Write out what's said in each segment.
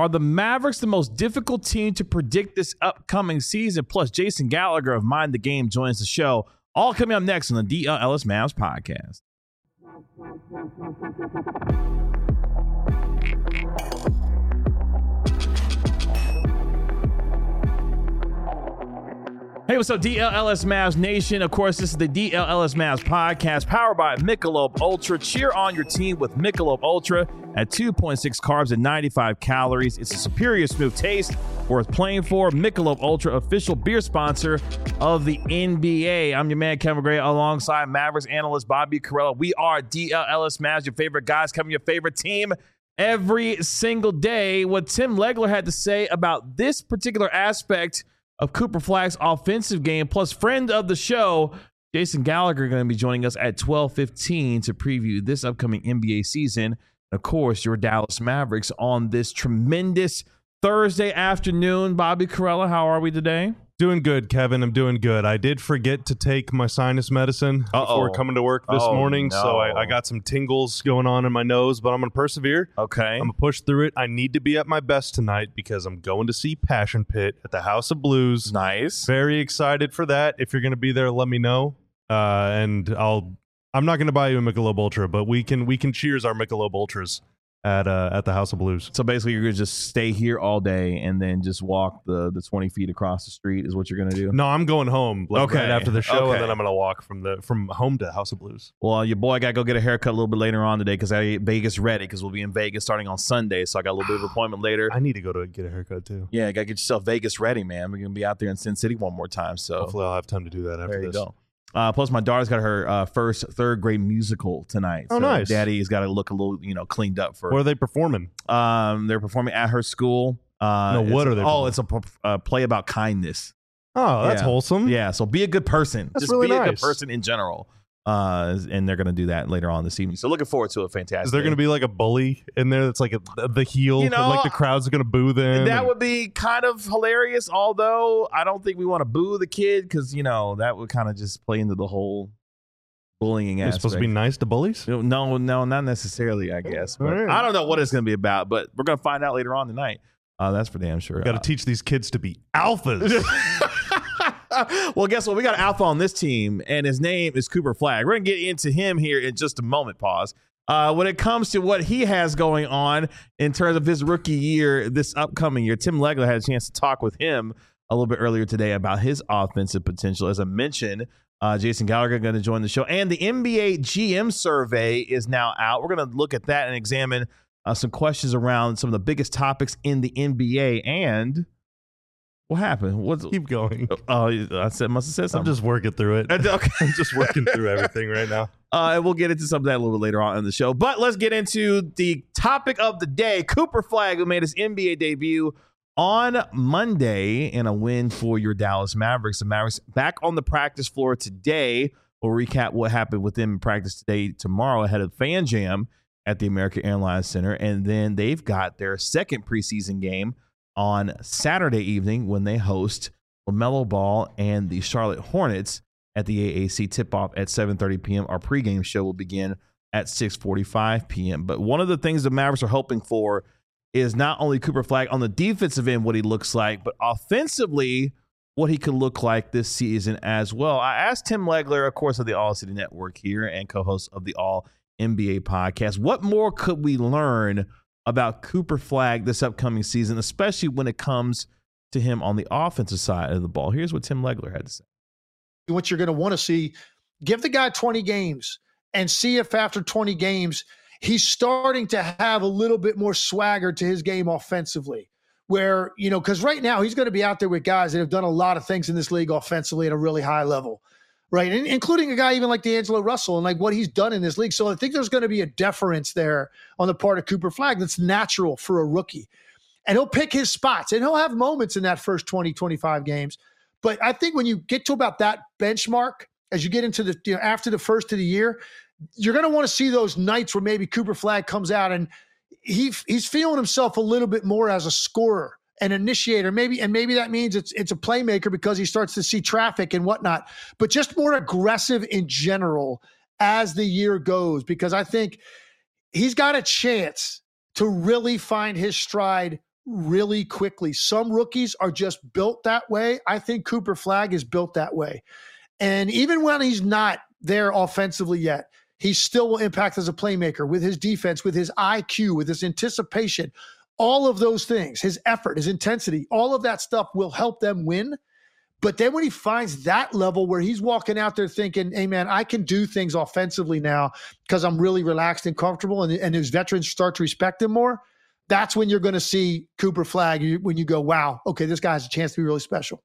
Are the Mavericks the most difficult team to predict this upcoming season? Plus, Jason Gallagher of Mind the Game joins the show. All coming up next on the DL Ellis Mavs podcast. Hey, what's up, DLLS Mavs Nation? Of course, this is the DLLS Mavs podcast powered by Michelob Ultra. Cheer on your team with Michelob Ultra at 2.6 carbs and 95 calories. It's a superior smooth taste worth playing for. Michelob Ultra, official beer sponsor of the NBA. I'm your man, Kevin Gray, alongside Mavericks analyst Bobby Carrella. We are DLLS Mavs, your favorite guys, covering your favorite team every single day. What Tim Legler had to say about this particular aspect of Cooper Flagg's offensive game, plus friend of the show, Jason Gallagher, going to be joining us at 12:15 to preview this upcoming NBA season. Of course, your Dallas Mavericks on this tremendous Thursday afternoon. Bobby Carrella, how are we today? Doing good, Kevin. I'm doing good. I did forget to take my sinus medicine before coming to work this morning, no. so I got some tingles going on in my nose, but I'm going to persevere. Okay. I'm going to push through it. I need to be at my best tonight because I'm going to see Passion Pit at the House of Blues. Nice. Very excited for that. If you're going to be there, let me know. I'm not going to buy you a Michelob Ultra, but we can cheers our Michelob Ultras at the House of Blues. So basically, you're going to just stay here all day and then just walk the 20 feet across the street is what you're going to do? No, I'm going home right after the show, Okay. and then I'm going to walk from home to House of Blues. Well, your boy got to go get a haircut a little bit later on today because I get Vegas ready because we'll be in Vegas starting on Sunday. So I got a little bit of an appointment later. I need to go to get a haircut too. Yeah, got to get yourself Vegas ready, man. We're going to be out there in Sin City one more time. So Hopefully I'll have time to do that after there you this. go. Plus, my daughter's got her first third grade musical tonight. Oh, so nice. Daddy's got to look a little, cleaned up for. Where are they performing? They're performing at her school. What are they? Oh, it's a play about kindness. Oh, that's Yeah. wholesome. Yeah, so be a good person. That's Just really be a good nice. person in general. And they're going to do that later on this evening. So looking forward to it. Fantastic. Is there going to be like a bully in there that's like the heel? And like the crowd's going to boo them? That would be kind of hilarious, although I don't think we want to boo the kid because, that would kind of just play into the whole bullying You're aspect. supposed to be nice to bullies? No, not necessarily, I guess. But All right. I don't know what it's going to be about, but we're going to find out later on tonight. That's for damn sure. Got to teach these kids to be alphas. Well, guess what? We got an alpha on this team, and his name is Cooper Flagg. We're going to get into him here in just a moment. Pause. When it comes to what he has going on in terms of his rookie year, this upcoming year, Tim Legler had a chance to talk with him a little bit earlier today about his offensive potential. As I mentioned, Jason Gallagher going to join the show, and the NBA GM survey is now out. We're going to look at that and examine some questions around some of the biggest topics in the NBA. And what happened? Keep going. Oh, must have said I'm something. just working through it. Okay. I'm just working through everything right now. And we'll get into some of that a little bit later on in the show. But let's get into the topic of the day. Cooper Flagg, who made his NBA debut on Monday in a win for your Dallas Mavericks. The Mavericks back on the practice floor today. We'll recap what happened with them in practice today, tomorrow, ahead of Fan Jam at the American Airlines Center. And then they've got their second preseason game on Saturday evening when they host LaMelo Ball and the Charlotte Hornets at the AAC tip-off at 7:30 p.m. Our pregame show will begin at 6:45 p.m. But one of the things the Mavericks are hoping for is not only Cooper Flagg on the defensive end, what he looks like, but offensively, what he could look like this season as well. I asked Tim Legler, of course, of the All City Network here and co-host of the All NBA podcast, what more could we learn about Cooper Flagg this upcoming season, especially when it comes to him on the offensive side of the ball? Here's what Tim Legler had to say. What you're going to want to see, give the guy 20 games and see if after 20 games, he's starting to have a little bit more swagger to his game offensively. Where, because right now he's going to be out there with guys that have done a lot of things in this league offensively at a really high level, right? And including a guy even like D'Angelo Russell and like what he's done in this league. So I think there's going to be a deference there on the part of Cooper Flagg that's natural for a rookie. And he'll pick his spots and he'll have moments in that first 20, 25 games. But I think when you get to about that benchmark, as you get into the, after the first of the year, you're going to want to see those nights where maybe Cooper Flagg comes out and he's feeling himself a little bit more as a scorer, an initiator, maybe that means it's a playmaker because he starts to see traffic and whatnot, but just more aggressive in general as the year goes, because I think he's got a chance to really find his stride really quickly. Some rookies are just built that way. I think Cooper Flagg is built that way. And even when he's not there offensively yet, he still will impact as a playmaker with his defense, with his IQ, with his anticipation, all of those things, his effort, his intensity, all of that stuff will help them win. But then when he finds that level where he's walking out there thinking, hey, man, I can do things offensively now because I'm really relaxed and comfortable, and his veterans start to respect him more, that's when you're going to see Cooper Flagg, when you go, wow, okay, this guy has a chance to be really special.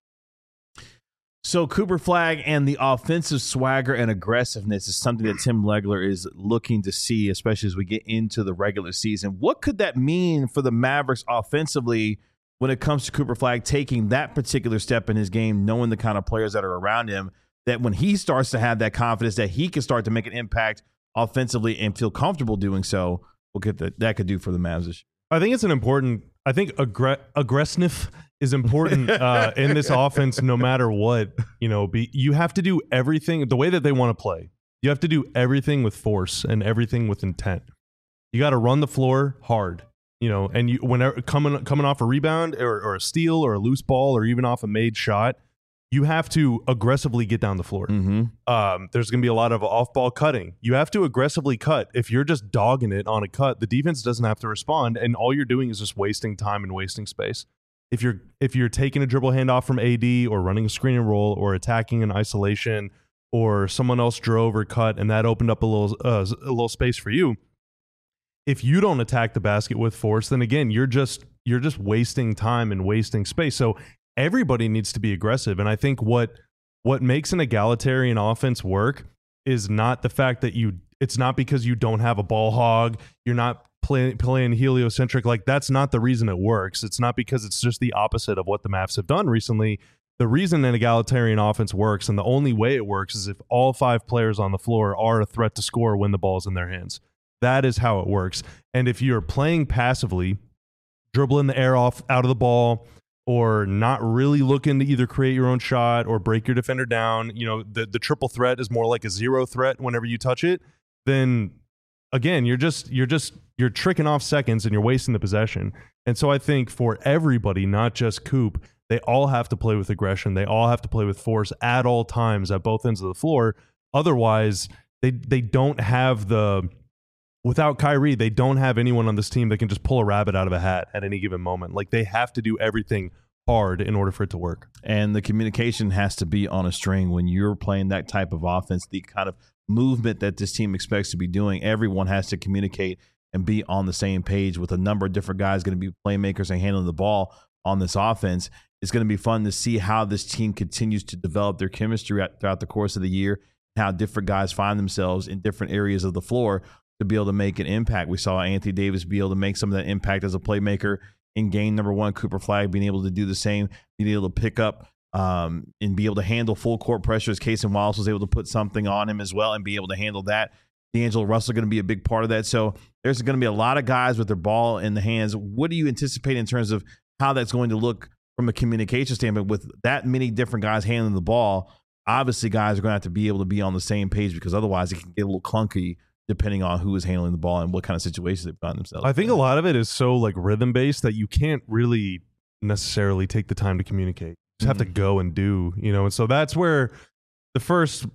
So Cooper Flagg and the offensive swagger and aggressiveness is something that Tim Legler is looking to see, especially as we get into the regular season. What could that mean for the Mavericks offensively when it comes to Cooper Flagg taking that particular step in his game, knowing the kind of players that are around him, that when he starts to have that confidence that he can start to make an impact offensively and feel comfortable doing so, what that could do for the Mavs this year? I think it's an important. I think aggressiveness is important in this offense, no matter what. You have to do everything the way that they want to play. You have to do everything with force and everything with intent. You got to run the floor hard. And you whenever coming off a rebound or a steal or a loose ball or even off a made shot, you have to aggressively get down the floor. Mm-hmm. There's going to be a lot of off-ball cutting. You have to aggressively cut. If you're just dogging it on a cut, the defense doesn't have to respond, and all you're doing is just wasting time and wasting space. If you're taking a dribble handoff from AD or running a screen and roll or attacking in isolation or someone else drove or cut and that opened up a little space for you, if you don't attack the basket with force, then again, you're just wasting time and wasting space. So everybody needs to be aggressive. And I think what makes an egalitarian offense work is not the fact that it's not because you don't have a ball hog, you're not playing heliocentric. Like, that's not the reason it works. It's not because it's just the opposite of what the Mavs have done recently. The reason an egalitarian offense works, and the only way it works, is if all 5 players on the floor are a threat to score when the ball's in their hands. That is how it works. And if you're playing passively, dribbling the air out of the ball, or not really looking to either create your own shot or break your defender down, the triple threat is more like a 0 threat whenever you touch it, then again, you're tricking off seconds and you're wasting the possession. And so I think for everybody, not just Coop, they all have to play with aggression. They all have to play with force at all times at both ends of the floor. Otherwise, they don't have without Kyrie, they don't have anyone on this team that can just pull a rabbit out of a hat at any given moment. Like, they have to do everything hard in order for it to work. And the communication has to be on a string when you're playing that type of offense, the kind of movement that this team expects to be doing. Everyone has to communicate and be on the same page with a number of different guys going to be playmakers and handling the ball on this offense. It's going to be fun to see how this team continues to develop their chemistry throughout the course of the year, how different guys find themselves in different areas of the floor to be able to make an impact. We saw Anthony Davis be able to make some of that impact as a playmaker in game number 1. Cooper Flagg being able to do the same, being able to pick up and be able to handle full court pressure, as Cason Wallace was able to put something on him as well and be able to handle that. D'Angelo Russell going to be a big part of that. So there's going to be a lot of guys with their ball in the hands. What do you anticipate in terms of how that's going to look from a communication standpoint with that many different guys handling the ball? Obviously, guys are going to have to be able to be on the same page, because otherwise it can get a little clunky depending on who is handling the ball and what kind of situations they find themselves. I think a lot of it is so like rhythm based that you can't really necessarily take the time to communicate. You just have to go and do, and so that's where the first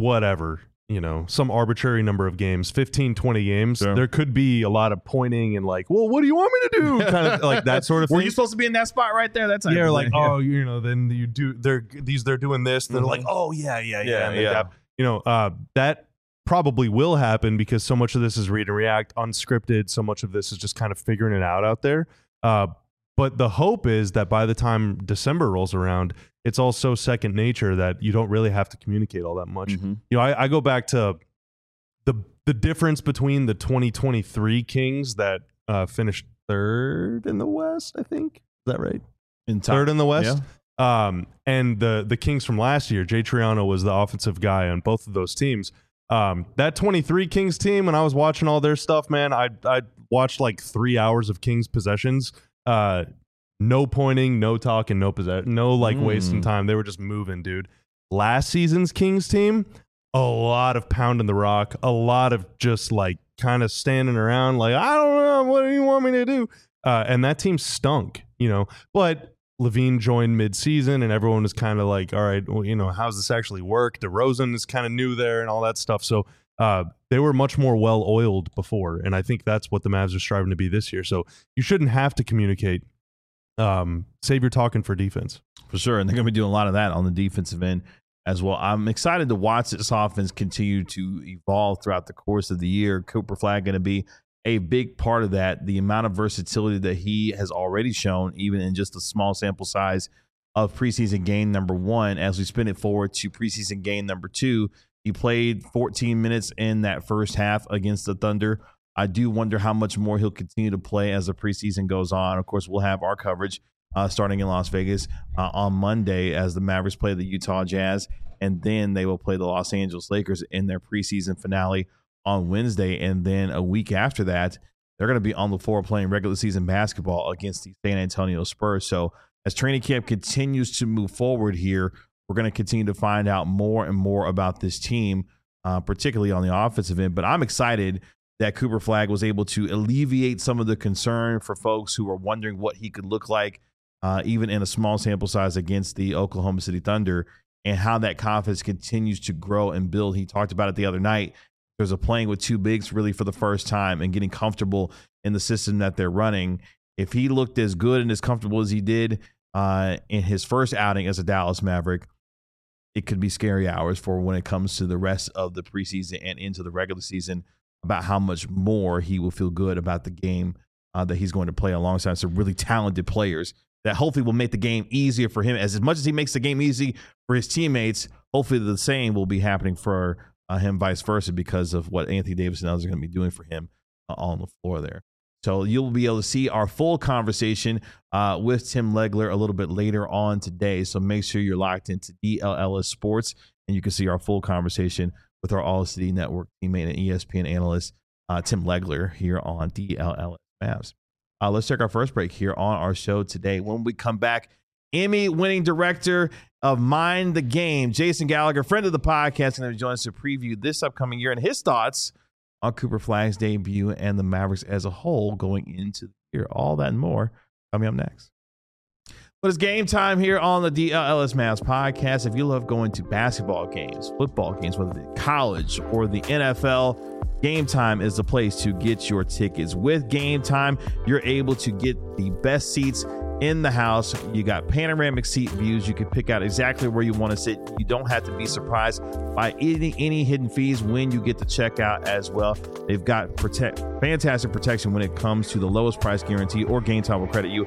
some arbitrary number of games, 15, 20 games, sure, there could be a lot of pointing and like, well, what do you want me to do? Kind of like that sort of thing. Were you supposed to be in that spot right there? That's yeah, like, oh, then you do, they're doing this. And they're like, oh, yeah. That probably will happen because so much of this is read and react, unscripted. So much of this is just kind of figuring it out there. But the hope is that by the time December rolls around, it's all so second nature that you don't really have to communicate all that much. Mm-hmm. I go back to the difference between the 2023 Kings that finished 3rd in the West, I think. Is that right? Third in the West? Yeah. And the Kings from last year, Jay Triano was the offensive guy on both of those teams. That 23 Kings team, when I was watching all their stuff, man, I watched like 3 hours of Kings possessions. No pointing, no talking, no possession, no like wasting time. They were just moving, dude. Last season's Kings team, a lot of pounding the rock, a lot of just like kind of standing around like, I don't know, what do you want me to do? and that team stunk, but Levine joined mid-season and everyone was kind of like, all right, well, how's this actually work? DeRozan is kind of new there and all that stuff. So they were much more well-oiled before, and I think that's what the Mavs are striving to be this year. So you shouldn't have to communicate. Save your talking for defense. For sure, and they're going to be doing a lot of that on the defensive end as well. I'm excited to watch this offense continue to evolve throughout the course of the year. Cooper Flagg going to be a big part of that. The amount of versatility that he has already shown, even in just a small sample size of preseason game number 1, as we spin it forward to preseason game number 2, he played 14 minutes in that first half against the Thunder. I do wonder how much more he'll continue to play as the preseason goes on. Of course, we'll have our coverage starting in Las Vegas on Monday as the Mavericks play the Utah Jazz, and then they will play the Los Angeles Lakers in their preseason finale on Wednesday. And then a week after that, they're going to be on the floor playing regular season basketball against the San Antonio Spurs. So as training camp continues to move forward here, we're going to continue to find out more and more about this team, particularly on the offensive end. But I'm excited that Cooper Flagg was able to alleviate some of the concern for folks who were wondering what he could look like, even in a small sample size against the Oklahoma City Thunder, and how that confidence continues to grow and build. He talked about it the other night. There's a playing with 2 bigs really for the first time and getting comfortable in the system that they're running. If he looked as good and as comfortable as he did in his first outing as a Dallas Maverick, it could be scary hours for when it comes to the rest of the preseason and into the regular season about how much more he will feel good about the game that he's going to play alongside some really talented players that hopefully will make the game easier for him. As much as he makes the game easy for his teammates, hopefully the same will be happening for him vice versa because of what Anthony Davis and others are going to be doing for him on the floor there. So you'll be able to see our full conversation with Tim Legler a little bit later on today. So make sure you're locked into DLLS Sports, and you can see our full conversation with our All-City Network teammate and ESPN analyst, Tim Legler, here on DLLS Mavs. Let's take our first break here on our show today. When we come back, Emmy-winning director of Mind the Game, Jason Gallagher, friend of the podcast, going to join us to preview this upcoming year and his thoughts on Cooper Flagg's debut and the Mavericks as a whole going into the year. All that and more coming up next. But it's game time here on the DLLS Mavs podcast. If you love going to basketball games, football games, whether it's college or the NFL, Game Time is the place to get your tickets. With Game Time, you're able to get the best seats in the house. You got panoramic seat views. You can pick out exactly where you want to sit. You don't have to be surprised by any hidden fees when you get to check out as well. They've got fantastic protection when it comes to the lowest price guarantee, or Game Time will credit you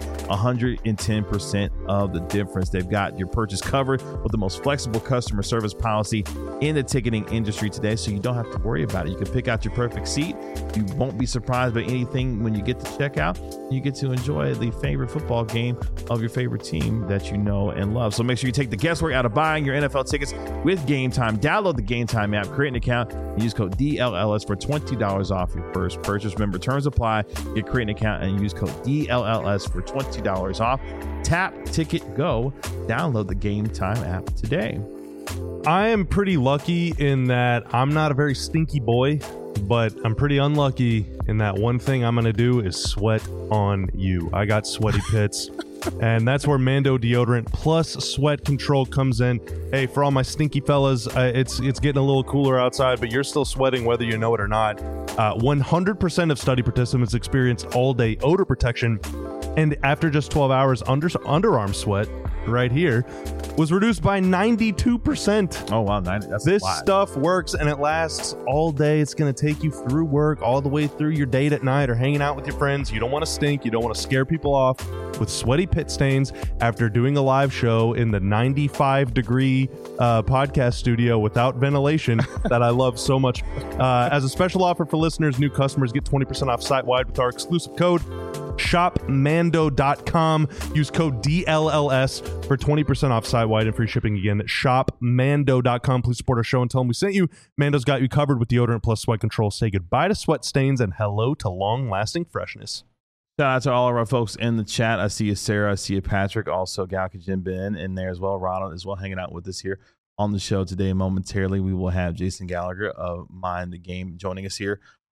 110% of the difference. They've got your purchase covered with the most flexible customer service policy in the ticketing industry today, so you don't have to worry about it. You can pick out your perfect seat. You won't be surprised by anything when you get to check out. You get to enjoy the favorite football game of your favorite team that you know and love. So make sure you take the guesswork out of buying your NFL tickets with Game Time. Download the Game Time app, create an account, and use code DLLS for $20 off your first purchase. Remember, terms apply. You create an account and use code DLLS for $20 off. Tap, ticket, go. Download the Game Time app today. I am pretty lucky in that I'm not a very stinky boy, but I'm pretty unlucky in that one thing I'm going to do is sweat on you. I got sweaty pits, and that's where Mando deodorant plus sweat control comes in. Hey, for all my stinky fellas, it's getting a little cooler outside, but you're still sweating whether you know it or not. 100% of study participants experience all-day odor protection, and after just 12 hours, underarm sweat right here was reduced by 92%. Oh, wow. 90, that's this stuff works, and it lasts all day. It's going to take you through work, all the way through your date at night or hanging out with your friends. You don't want to stink. You don't want to scare people off with sweaty pit stains after doing a live show in the 95-degree podcast studio without ventilation that I love so much. As a special offer for listeners, new customers get 20% off site-wide with our exclusive code shopmando.com. Use code DLLS for 20% off site-wide and free shipping. Again, shopmando.com. Please support our show and tell them we sent you. Mando's got you covered with deodorant plus sweat control. Say goodbye to sweat stains and hello to long-lasting freshness. Shout out to all of our folks in the chat. I see you, Sarah. I see you, Patrick. Also, Galka Jim Ben in there as well. Ronald as well, hanging out with us here on the show today. Momentarily, we will have Jason Gallagher of Mind the Game joining us here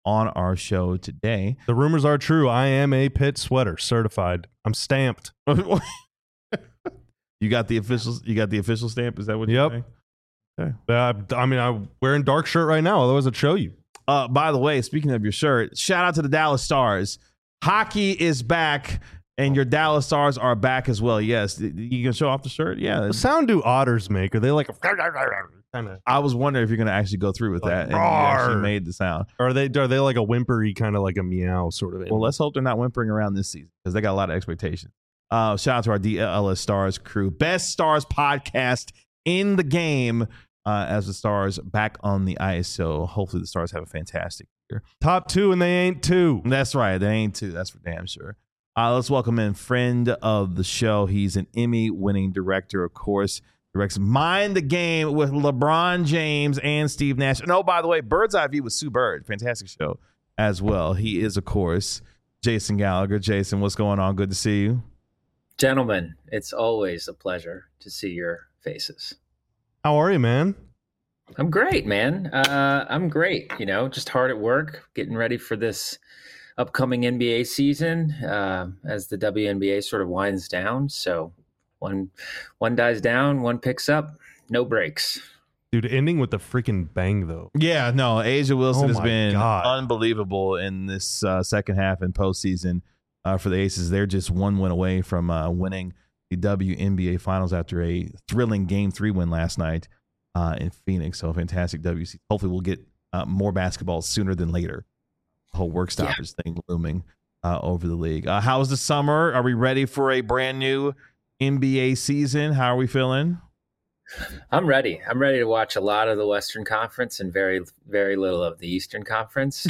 on our show today. The rumors are true. I am a Pitt sweater certified. I'm stamped. You got the official stamp? Is that what you're saying? Okay. I'm wearing dark shirt right now, otherwise I'd show you. By the way, speaking of your shirt, shout out to the Dallas Stars. Hockey is back, and your Dallas Stars are back as well. Yes. You can show off the shirt? Yeah. The sound do otters make? Are they like a kind of? I was wondering if you're going to actually go through with that. And you actually made the sound. Or are they like a whimpery kind of like a meow sort of animal? Well, let's hope they're not whimpering around this season because they got a lot of expectations. Shout out to our DLS Stars crew. Best Stars podcast in the game as the Stars back on the ice. So hopefully the Stars have a fantastic year. Top 2 and they ain't 2. That's right. They ain't 2. That's for damn sure. Let's welcome in friend of the show. He's an Emmy-winning director, of course. Directs Mind the Game with LeBron James and Steve Nash. And oh, by the way, Bird's Eye View with Sue Bird. Fantastic show as well. He is, of course, Jason Gallagher. Jason, what's going on? Good to see you. Gentlemen, it's always a pleasure to see your faces. How are you, man? I'm great, man. I'm great. Just hard at work, getting ready for this upcoming NBA season as the WNBA sort of winds down. So one dies down, one picks up, no breaks. Dude, ending with the freaking bang, though. Yeah, no, A'ja Wilson has been God. unbelievable in this second half and postseason for the Aces. They're just one win away from winning the WNBA Finals after a thrilling Game 3 win last night in Phoenix. So fantastic WC. Hopefully we'll get more basketball sooner than later. The whole work stoppage thing looming over the league. How was the summer? Are we ready for a brand new NBA season? How are we feeling? I'm ready. I'm ready to watch a lot of the Western Conference and very, very little of the Eastern Conference.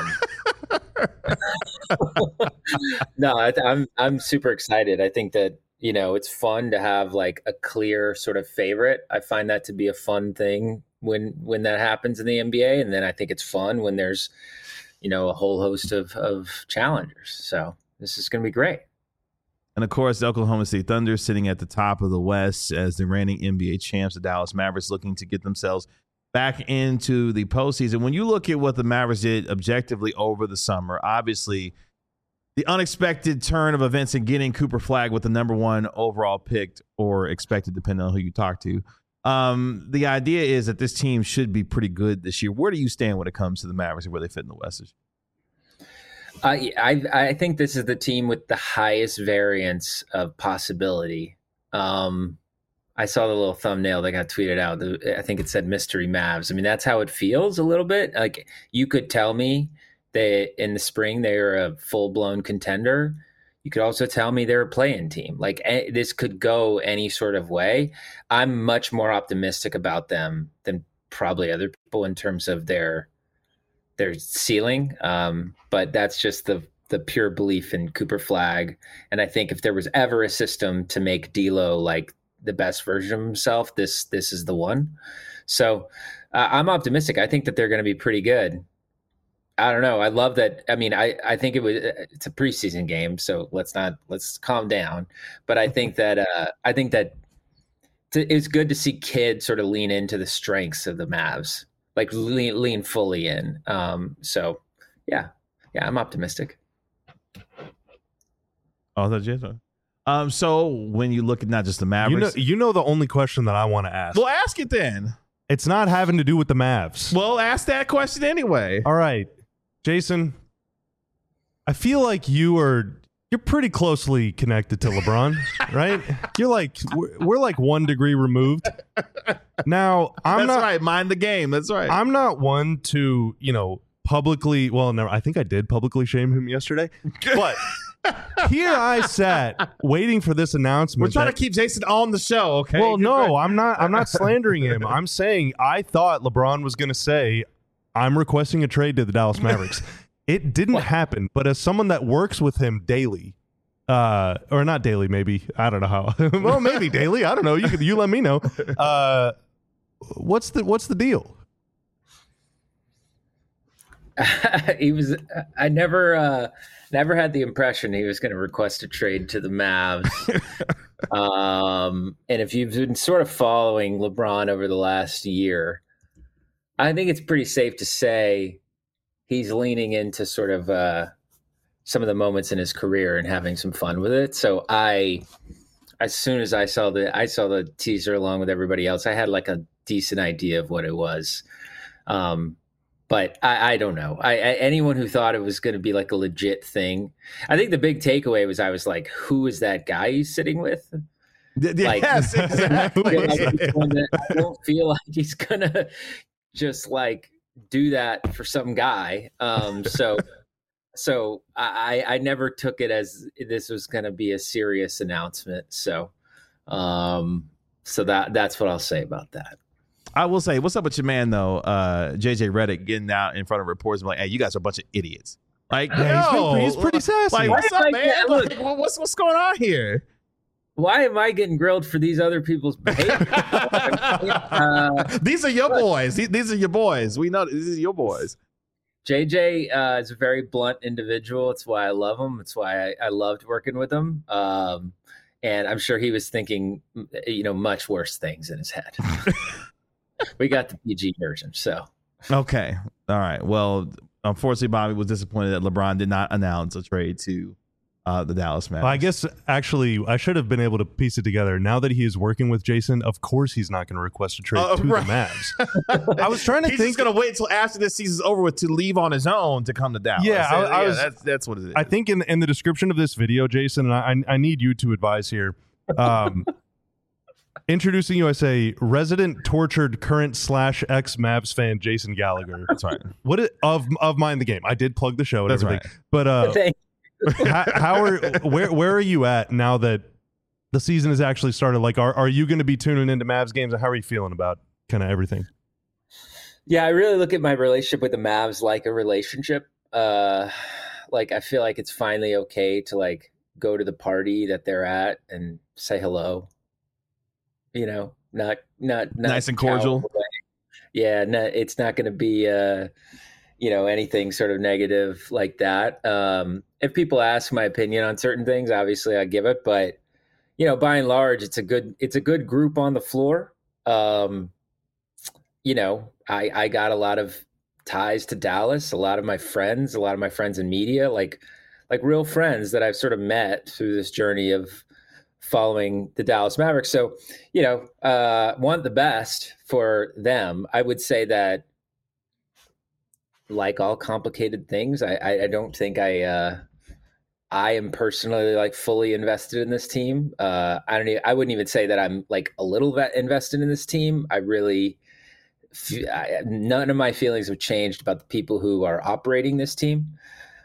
No, I'm super excited. I think that, it's fun to have like a clear sort of favorite. I find that to be a fun thing when that happens in the NBA. And then I think it's fun when there's, a whole host of challengers. So this is going to be great. And, of course, the Oklahoma City Thunder sitting at the top of the West as the reigning NBA champs. The Dallas Mavericks looking to get themselves back into the postseason. When you look at what the Mavericks did objectively over the summer, obviously the unexpected turn of events in getting Cooper Flagg with the number 1 overall picked or expected, depending on who you talk to. The idea is that this team should be pretty good this year. Where do you stand when it comes to the Mavericks and where they fit in the West? I think this is the team with the highest variance of possibility. I saw the little thumbnail that got tweeted out. I think it said Mystery Mavs. I mean, that's how it feels a little bit. Like you could tell me that in the spring they were a full-blown contender. You could also tell me they're a play-in team. Like this could go any sort of way. I'm much more optimistic about them than probably other people in terms of their ceiling. But that's just the pure belief in Cooper Flagg. And I think if there was ever a system to make D'Lo like the best version of himself, this is the one. So I'm optimistic. I think that they're going to be pretty good. I don't know. I love that. I mean, I think it's a preseason game, so let's calm down. But I think that it's good to see kids sort of lean into the strengths of the Mavs, like lean fully in. So yeah, I'm optimistic. Oh, that's Jason. So when you look at not just the Mavericks, the only question that I want to ask. Well, ask it then. It's not having to do with the Mavs. Well, ask that question anyway. All right, Jason. I feel like you're pretty closely connected to LeBron, right? You're like we're like 1 degree removed. Now That's right. Mind the game. That's right. I'm not one to publicly. Well, no, I think I did publicly shame him yesterday, but. Here I sat waiting for this announcement. We're trying to keep Jason on the show, okay? Well, no, I'm not slandering him. I'm saying I thought LeBron was going to say, I'm requesting a trade to the Dallas Mavericks. It didn't happen, but as someone that works with him daily, or not daily, maybe. I don't know how. Well, maybe daily. I don't know. You let me know. What's the deal? I never had the impression he was going to request a trade to the Mavs. And if you've been sort of following LeBron over the last year, I think it's pretty safe to say he's leaning into sort of some of the moments in his career and having some fun with it. So as soon as I saw the teaser along with everybody else, I had like a decent idea of what it was. But I don't know. Anyone who thought it was going to be like a legit thing, I think the big takeaway was I was like, who is that guy he's sitting with? Like, yes, exactly. I don't feel like he's gonna just like do that for some guy. So I never took it as this was going to be a serious announcement. So that's what I'll say about that. I will say, what's up with your man though, JJ Redick, getting out in front of reporters and like, hey, you guys are a bunch of idiots. Like, he's pretty sassy. Like, what's up, man? Like, what's going on here? Why am I getting grilled for these other people's behavior? These are your boys. These are your boys. We know these are your boys. JJ is a very blunt individual. It's why I love him. It's why I loved working with him. And I'm sure he was thinking, much worse things in his head. We got the PG version. So. Okay. All right. Well, unfortunately, Bobby was disappointed that LeBron did not announce a trade to the Dallas Mavericks. Well, I guess actually I should have been able to piece it together. Now that he is working with Jason, of course he's not going to request a trade to right. the Mavs. I was trying to he's think. He's going to wait until after this season's over with to leave on his own to come to Dallas. Yeah, that's what it is. I think in the description of this video, Jason, and I need you to advise here. Introducing you, I say, resident tortured current / ex Mavs fan Jason Gallagher. That's right. Of Mind the Game? I did plug the show and That's everything, right. but where are you at now that the season has actually started? Like, are you going to be tuning into Mavs games? And how are you feeling about kind of everything? Yeah, I really look at my relationship with the Mavs like a relationship. Like, I feel like it's finally okay to like go to the party that they're at and say hello. Not nice and cordial. Yeah, no, it's not going to be anything sort of negative like that. If people ask my opinion on certain things, obviously I give it, but by and large, it's a good group on the floor. I got a lot of ties to Dallas, a lot of my friends in media, like real friends that I've sort of met through this journey of following the Dallas Mavericks. So, want the best for them. I would say that, like all complicated things, I don't think I am personally like fully invested in this team. I wouldn't even say that I'm like a little bit invested in this team. I really, none of my feelings have changed about the people who are operating this team.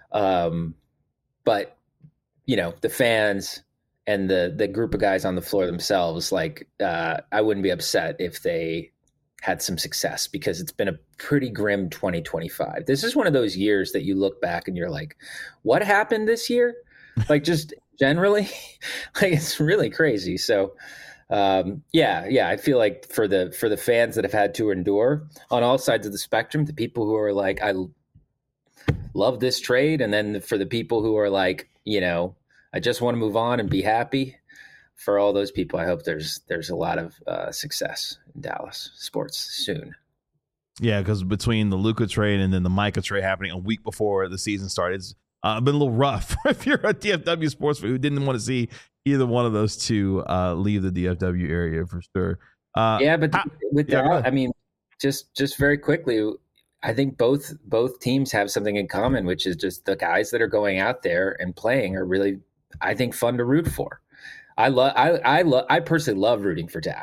But the fans and the group of guys on the floor themselves, like, I wouldn't be upset if they had some success, because it's been a pretty grim 2025. This is one of those years that you look back and you're like, what happened this year? Like, just generally, like, it's really crazy. So, I feel like for the fans that have had to endure on all sides of the spectrum, the people who are like, I love this trade. And then for the people who are like, I just want to move on and be happy. For all those people, I hope there's a lot of success in Dallas sports soon. Yeah, because between the Luka trade and then the Micah trade happening a week before the season started, it's been a little rough if you're a DFW sports fan who didn't want to see either one of those two leave the DFW area for sure. I mean, just very quickly, I think both teams have something in common, which is just the guys that are going out there and playing are really, I think, fun to root for. I personally love rooting for Dak.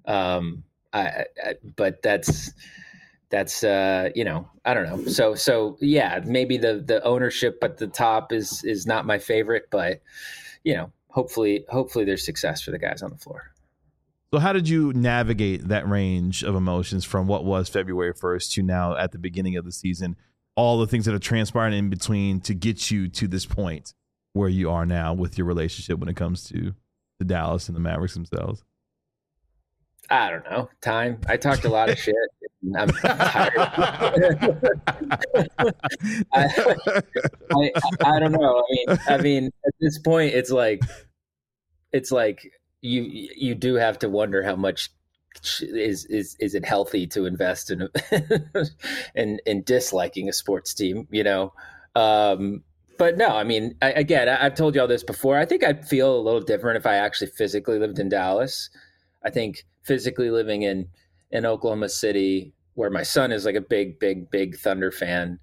But that's I don't know. So yeah, maybe the ownership at the top is not my favorite, but hopefully there's success for the guys on the floor. So how did you navigate that range of emotions from what was February 1st to now at the beginning of the season, all the things that have transpired in between to get you to this point where you are now with your relationship when it comes to the Dallas and the Mavericks themselves? I don't know. Time. I talked a lot of shit. I'm tired. I don't know. I mean, at this point, it's like you do have to wonder how much is it healthy to invest in in disliking a sports team, you know? But no, I mean, I've told you all this before. I think I'd feel a little different if I actually physically lived in Dallas. I think physically living in Oklahoma City, where my son is like a big Thunder fan,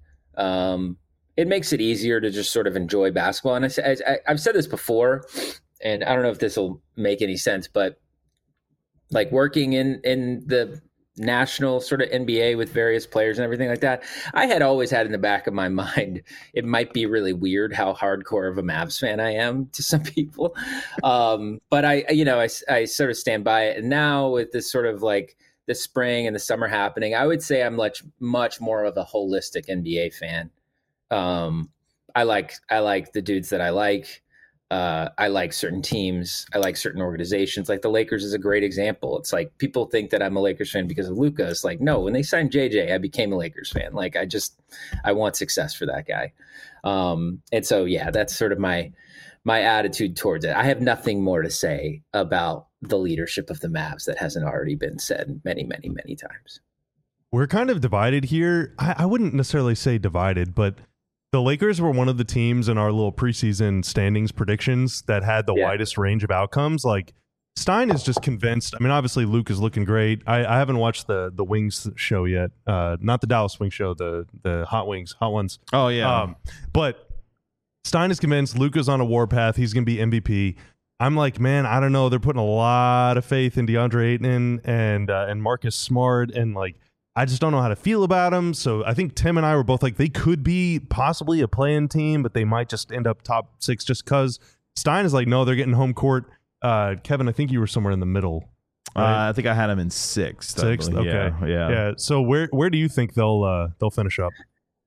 it makes it easier to just sort of enjoy basketball. And I've said this before, and I don't know if this will make any sense, but like working in the national sort of NBA with various players and everything like that, I had always had in the back of my mind, it might be really weird how hardcore of a Mavs fan I am to some people. But I sort of stand by it. And now with this sort of like the spring and the summer happening, I would say I'm much more of a holistic NBA fan. I like the dudes that I like. I like certain teams. I like certain organizations. Like the Lakers is a great example. It's like people think that I'm a Lakers fan because of Luka. It's like, no, when they signed JJ, I became a Lakers fan. Like I want success for that guy. And so, yeah, that's sort of my attitude towards it. I have nothing more to say about the leadership of the Mavs that hasn't already been said many, many, many times. We're kind of divided here. I wouldn't necessarily say divided, but the Lakers were one of the teams in our little preseason standings predictions that had the widest range of outcomes. Like Stein is just convinced. I mean, obviously Luke is looking great. I haven't watched the Wings show yet. Not the Dallas Wings show, the Hot Ones. Oh yeah. But Stein is convinced Luka's on a warpath. He's going to be MVP. I'm like, man, I don't know. They're putting a lot of faith in DeAndre Ayton and Marcus Smart, and like, I just don't know how to feel about them. So I think Tim and I were both like, they could be possibly a play-in team, but they might just end up top 6 just because. Stein is like, no, they're getting home court. Kevin, I think you were somewhere in the middle. Right? I think I had them in 6th. Okay. Yeah. So where do you think they'll finish up?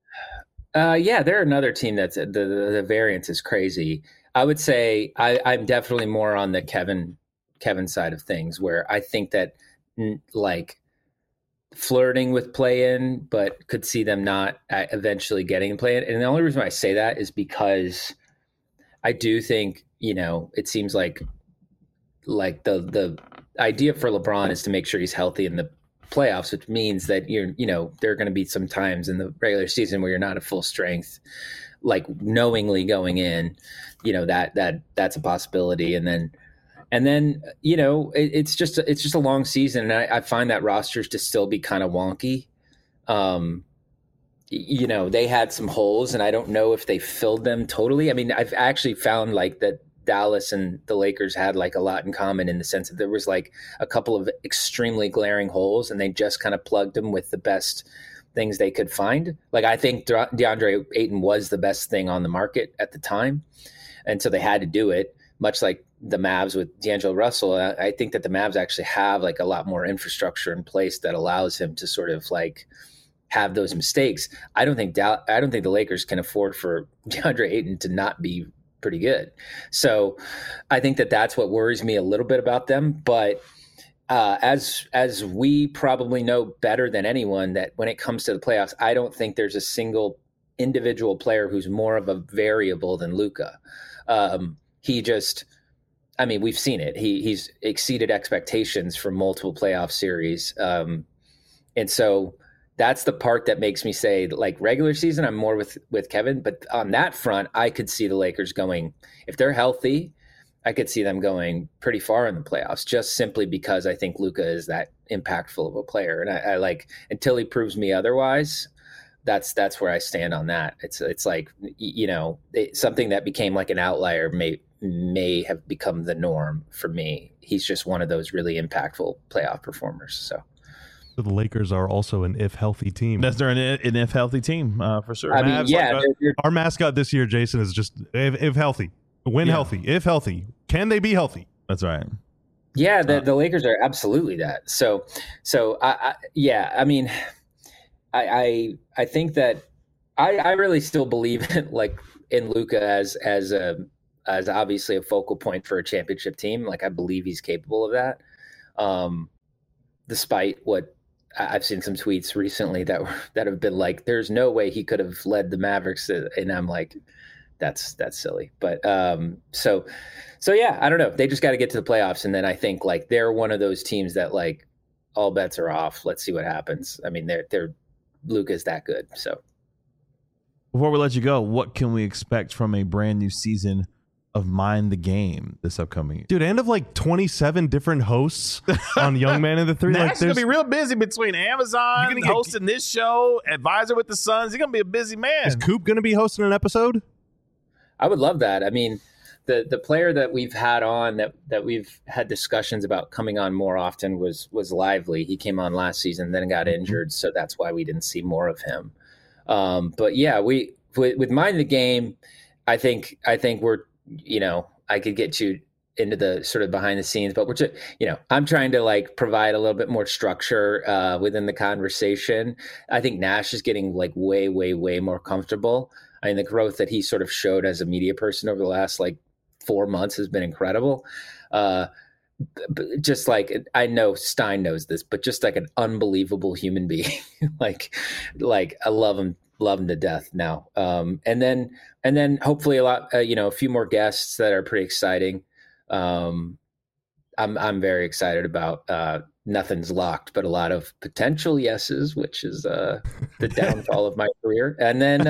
They're another team that's the variance is crazy. I would say I'm definitely more on the Kevin side of things, where I think that like flirting with play-in, but could see them not eventually getting play-in. And the only reason why I say that is because I do think, you know, it seems like the idea for LeBron is to make sure he's healthy in the playoffs, which means that there are going to be some times in the regular season where you're not at full strength, like knowingly going in, you know, that's a possibility. And then, you know, it's just a long season. And I find that rosters to still be kind of wonky. You know, they had some holes and I don't know if they filled them totally. I mean, I've actually found like that Dallas and the Lakers had like a lot in common in the sense that there was like a couple of extremely glaring holes and they just kind of plugged them with the best things they could find. Like I think DeAndre Ayton was the best thing on the market at the time. And so they had to do it, much like the Mavs with D'Angelo Russell. I think that the Mavs actually have like a lot more infrastructure in place that allows him to sort of like have those mistakes. I don't think the Lakers can afford for DeAndre Ayton to not be pretty good. So I think that that's what worries me a little bit about them. But as we probably know better than anyone, that when it comes to the playoffs, I don't think there's a single individual player who's more of a variable than Luka. We've seen it. He's exceeded expectations for multiple playoff series. And so that's the part that makes me say, like, regular season, I'm more with Kevin. But on that front, I could see the Lakers going, if they're healthy, I could see them going pretty far in the playoffs, just simply because I think Luka is that impactful of a player. And I like, until he proves me otherwise, that's where I stand on that. It's like, you know, something that became like an outlier may have become the norm for me. He's just one of those really impactful playoff performers. So the Lakers are also an if healthy team. They're an if healthy team for sure. I mean, yeah. Our mascot this year, Jason, is just if healthy, healthy, if healthy. Can they be healthy? That's right. Yeah, the Lakers are absolutely that. So I mean, I think that I really still believe in Luka as obviously a focal point for a championship team. Like, I believe he's capable of that. Despite what I've seen some tweets recently that have been like, there's no way he could have led the Mavericks. And I'm like, that's silly. But so yeah, I don't know. They just got to get to the playoffs. And then I think like they're one of those teams that like all bets are off. Let's see what happens. I mean, they're Luka's that good. So Before we let you go, what can we expect from a brand new season of Mind the Game this upcoming year? Dude, and of like 27 different hosts on Young Man in the Three. Nash is going to be real busy between Amazon, hosting this show, advisor with the Suns. He's going to be a busy man. Is Coop going to be hosting an episode? I would love that. I mean, the player that we've had on that we've had discussions about coming on more often was Lively. He came on last season, then got injured, so that's why we didn't see more of him. But yeah, with Mind the Game, I think we're, I could get you into the sort of behind the scenes, but we're just, I'm trying to like provide a little bit more structure within the conversation. I think Nash is getting like way, way, way more comfortable. I mean, the growth that he sort of showed as a media person over the last like 4 months has been incredible. Just like, I know Stein knows this, but just like an unbelievable human being. like I love him to death now. And then hopefully a few more guests that are pretty exciting. I'm very excited about Nothing's Locked, but a lot of potential yeses, which is the downfall of my career. And then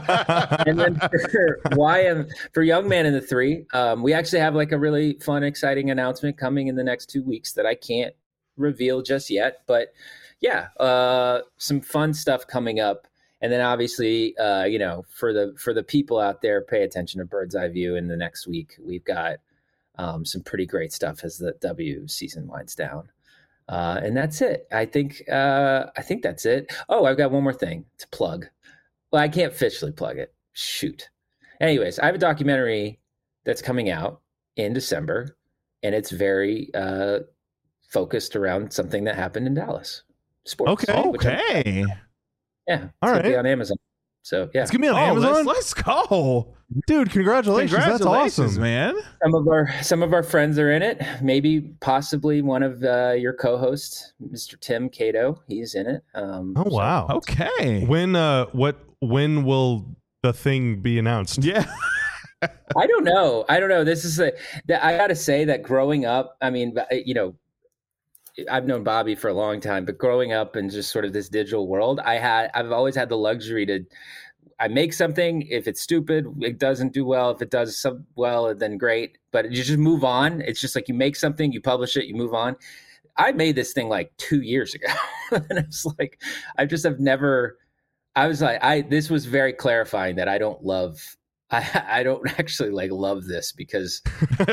for Young Man in the Three, we actually have like a really fun, exciting announcement coming in the next 2 weeks that I can't reveal just yet. But yeah, some fun stuff coming up. And then obviously, for the people out there, pay attention to Bird's Eye View in the next week. We've got some pretty great stuff as the W season winds down. And that's it. I think that's it. Oh, I've got one more thing to plug. Well, I can't officially plug it. Shoot. Anyways, I have a documentary that's coming out in December, and it's very focused around something that happened in Dallas. Sports. Okay. Yeah. All right. It's gonna be on Amazon. So yeah. It's going to be on Amazon? Let's go. Dude, congratulations. That's awesome, man. Some of our friends are in it. Maybe possibly one of your co-hosts, Mr. Tim Cato. He's in it. Wow. Okay. When will the thing be announced? Yeah. I don't know. This is I got to say that growing up, I mean, I've known Bobby for a long time, but growing up in just sort of this digital world, I've always had the luxury I make something. If it's stupid, it doesn't do well. If it does well, then great. But you just move on. It's just like you make something, you publish it, you move on. I made this thing like 2 years ago. And it's like, this was very clarifying that I don't actually like love this because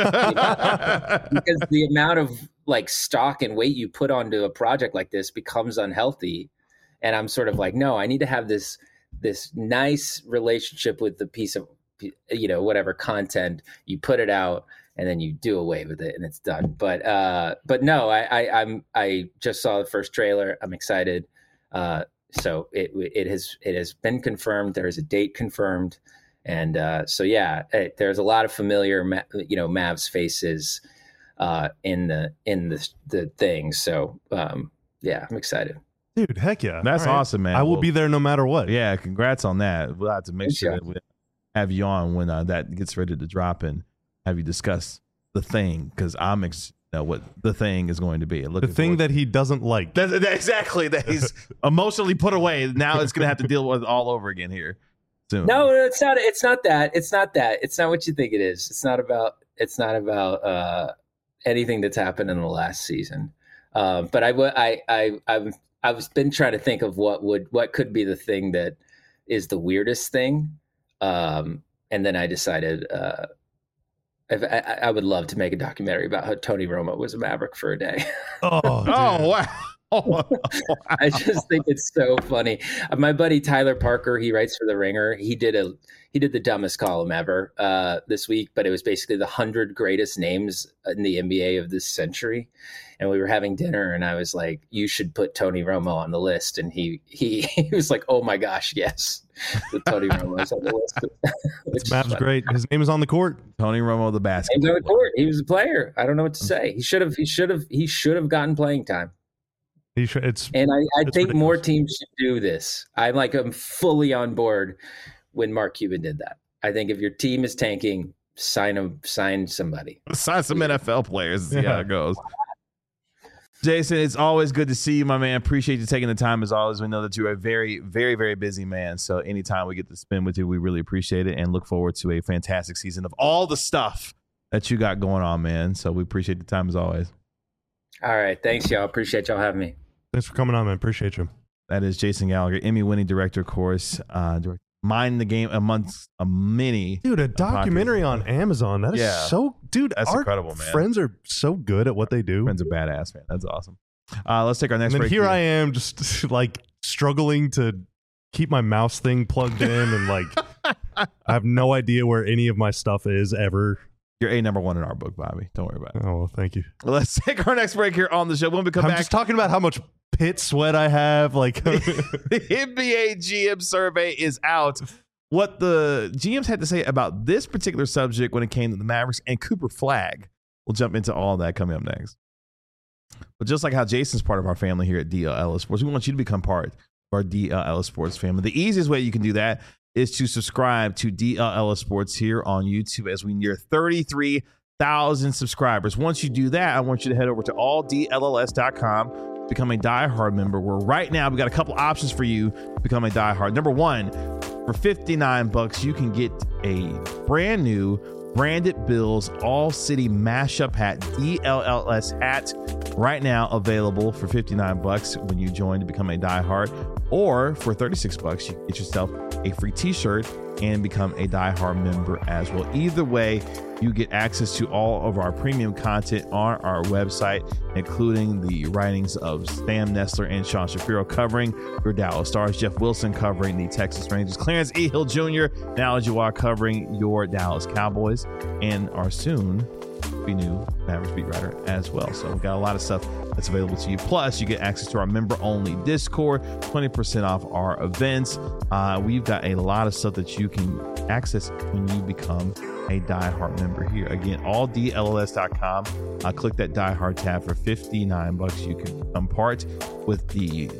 the amount of like stock and weight you put onto a project like this becomes unhealthy. And I'm sort of like, no, I need to have this nice relationship with the piece of, whatever content you put it out and then you do away with it and it's done. But no, I just saw the first trailer. I'm excited. So it has been confirmed. There is a date confirmed. And so, yeah, there's a lot of familiar, Mavs faces in the thing. So, yeah, I'm excited. Dude, heck yeah. That's awesome, man. I will be there no matter what. Yeah, congrats on that. We'll have to make sure that we have you on when that gets ready to drop and have you discuss the thing, because I'm what the thing is going to be. The thing that he doesn't like. Exactly. That he's emotionally put away. Now it's going to have to deal with all over again here soon. No, it's not. It's not that. It's not that. It's not what you think it is. It's not about anything that's happened in the last season. But I've been trying to think of what could be the thing that is the weirdest thing. And then I decided I would love to make a documentary about how Tony Romo was a Maverick for a day. Oh wow. I just think it's so funny. My buddy Tyler Parker, he writes for The Ringer. He did the dumbest column ever this week, but it was basically the 100 greatest names in the NBA of this century. And we were having dinner, and I was like, "You should put Tony Romo on the list." And he was like, "Oh my gosh, yes, Tony Romo is on the list." It's Mav's great. His name is on the court. Tony Romo, the basketball. He's on the court. He was a player. I don't know what to say. He should have gotten playing time. I think ridiculous. More teams should do this. I'm fully on board when Mark Cuban did that. I think if your team is tanking, sign somebody. Sign some NFL players. See how it goes. Jason, it's always good to see you, my man. Appreciate you taking the time as always. We know that you're a very, very, very busy man. So anytime we get to spend with you, we really appreciate it and look forward to a fantastic season of all the stuff that you got going on, man. So we appreciate the time as always. All right. Thanks, y'all. Appreciate y'all having me. Thanks for coming on, man. Appreciate you. That is Jason Gallagher, Emmy-winning director, of course. Mind the Game amongst a mini. Dude, a documentary on Amazon. That is so, dude, that's incredible, man. Friends are so good at what they do. Friends are badass, man. That's awesome. Let's take our next break. And here I am just like struggling to keep my mouse thing plugged in and like I have no idea where any of my stuff is ever. You're number one in our book, Bobby. Don't worry about it. Oh, well, thank you. Let's take our next break here on the show. When we come back, I'm just talking about how much pit sweat I have. Like the NBA GM survey is out. What the GMs had to say about this particular subject when it came to the Mavericks and Cooper Flagg. We'll jump into all that coming up next. But just like how Jason's part of our family here at DLL Sports, we want you to become part of our DLL Sports family. The easiest way you can do that is to subscribe to DLL Sports here on YouTube as we near 33,000 subscribers. Once you do that, I want you to head over to alldlls.com, become a diehard member, where right now we got a couple options for you to become a diehard. Number one, for $59, you can get a brand new branded Bills All City Mashup hat, DLLS hat, right now available for $59 when you join to become a diehard. Or for $36, you can get yourself a free t-shirt and become a diehard member as well. Either way, you get access to all of our premium content on our website, including the writings of Sam Nestler and Sean Shapiro covering your Dallas Stars, Jeff Wilson covering the Texas Rangers, Clarence E. Hill Jr., now as you are covering your Dallas Cowboys, and our soon be new Mavericks beat writer as well. So we've got a lot of stuff that's available to you. Plus, you get access to our member-only Discord, 20% off our events. We've got a lot of stuff that you can access when you become a diehard member here. Again, alldlls.com. Click that diehard tab for $59. You can become part with the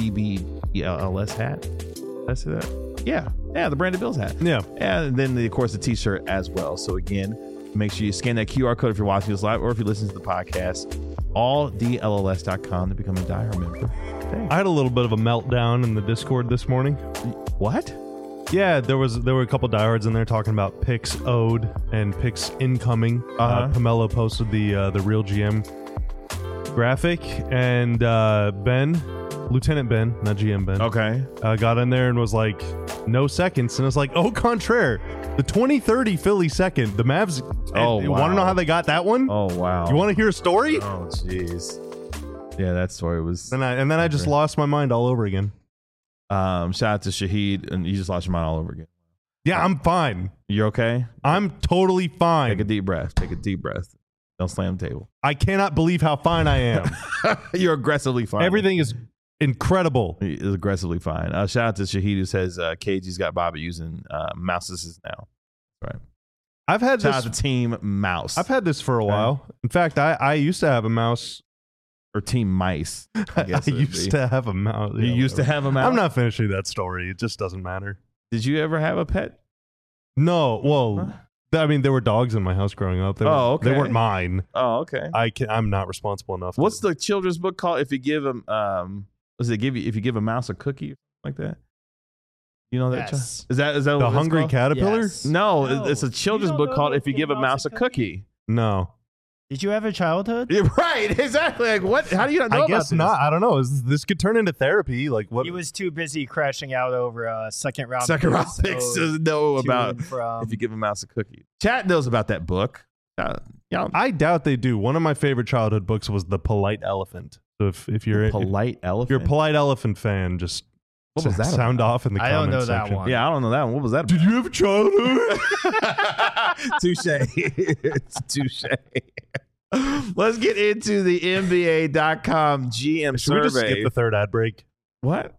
BBDLLS hat. That's that. Yeah, the branded Bills hat. Yeah, and then of course the t-shirt as well. So again, make sure you scan that QR code if you're watching this live or if you listen to the podcast. Alldlls.com to become a diehard member. I had a little bit of a meltdown in the Discord this morning. What? Yeah, there were a couple diehards in there talking about picks owed and picks incoming. Pamela posted the Real GM graphic, and Lieutenant Ben, not GM Ben, okay, got in there and was like, no seconds, and it's like, au contraire, the 2030 Philly second, the Mavs. Oh, you wow. Want to know how they got that one? Oh wow! You want to hear a story? Oh jeez. Yeah, that story was. And then I just lost my mind all over again. Shout out to Shahid, and you just lost your mind all over again. Yeah, I'm fine. You're okay? I'm totally fine. Take a deep breath. Take a deep breath. Don't slam the table. I cannot believe how fine I am. You're aggressively fine. Everything is incredible. He is aggressively fine. Shout out to Shahid, who says KG's got Bobby using mouse assist now. Right. I've had Shout this out to Team Mouse. I've had this for a while. In fact, I used to have a mouse. Or Team Mice. I used to have a mouse. You used to have a mouse? I'm not finishing that story. It just doesn't matter. Did you ever have a pet? No. Well, I mean, there were dogs in my house growing up. They weren't mine. Oh, okay. I'm not responsible enough. What's the children's book called? If you give them, if you give a mouse a cookie or something like that? You know that? Yes. Is that The Hungry Caterpillar? Yes. No, it's a children's book called If You Give a Mouse a Cookie. No. Did you have a childhood? Yeah, right, exactly. Like what? How do you not know I about guess this? not. I don't know. This could turn into therapy. Like what? He was too busy crashing out over second round picks doesn't know about from. If You Give a Mouse a Cookie. Chat knows about that book. I doubt they do. One of my favorite childhood books was The Polite Elephant. So if you're Polite Elephant, you're a Polite Elephant fan, just what was that sound about? off in the I don't comments know that section. one. Yeah, I don't know that one. What was that about? Did you have a childhood? Touche. Touche. Let's get into the NBA.com GM Should survey. we just skip the third ad break? What?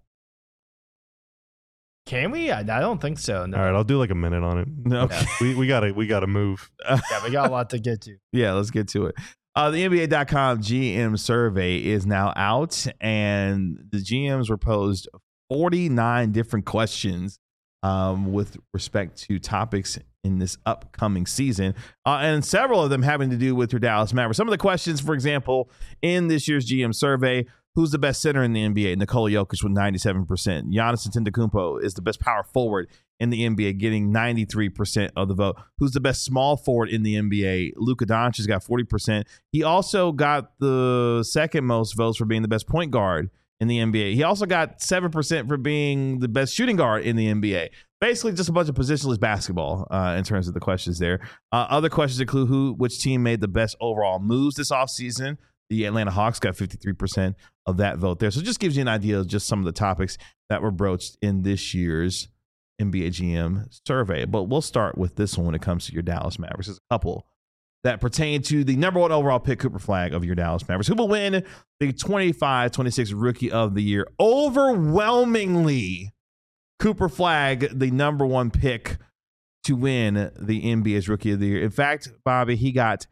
Can we? I don't think so. No. All right, I'll do like a minute on it. No. Yeah. We gotta move. Yeah, we got a lot to get to. Yeah, let's get to it. The NBA.com GM survey is now out, and the GMs were posed 49 different questions with respect to topics in this upcoming season, and several of them having to do with your Dallas Mavericks. Some of the questions, for example, in this year's GM survey: who's the best center in the NBA? Nikola Jokic with 97%. Giannis Antetokounmpo is the best power forward in the NBA, getting 93% of the vote. Who's the best small forward in the NBA? Luka Doncic has got 40%. He also got the second most votes for being the best point guard in the NBA. He also got 7% for being the best shooting guard in the NBA. Basically, just a bunch of positionless basketball in terms of the questions there. Other questions include which team made the best overall moves this offseason. The Atlanta Hawks got 53% of that vote there. So it just gives you an idea of just some of the topics that were broached in this year's NBA GM survey. But we'll start with this one when it comes to your Dallas Mavericks. There's a couple that pertain to the number one overall pick, Cooper Flagg, of your Dallas Mavericks, who will win the 25-26 Rookie of the Year. Overwhelmingly, Cooper Flagg, the number one pick to win the NBA's Rookie of the Year. In fact, Bobby, he got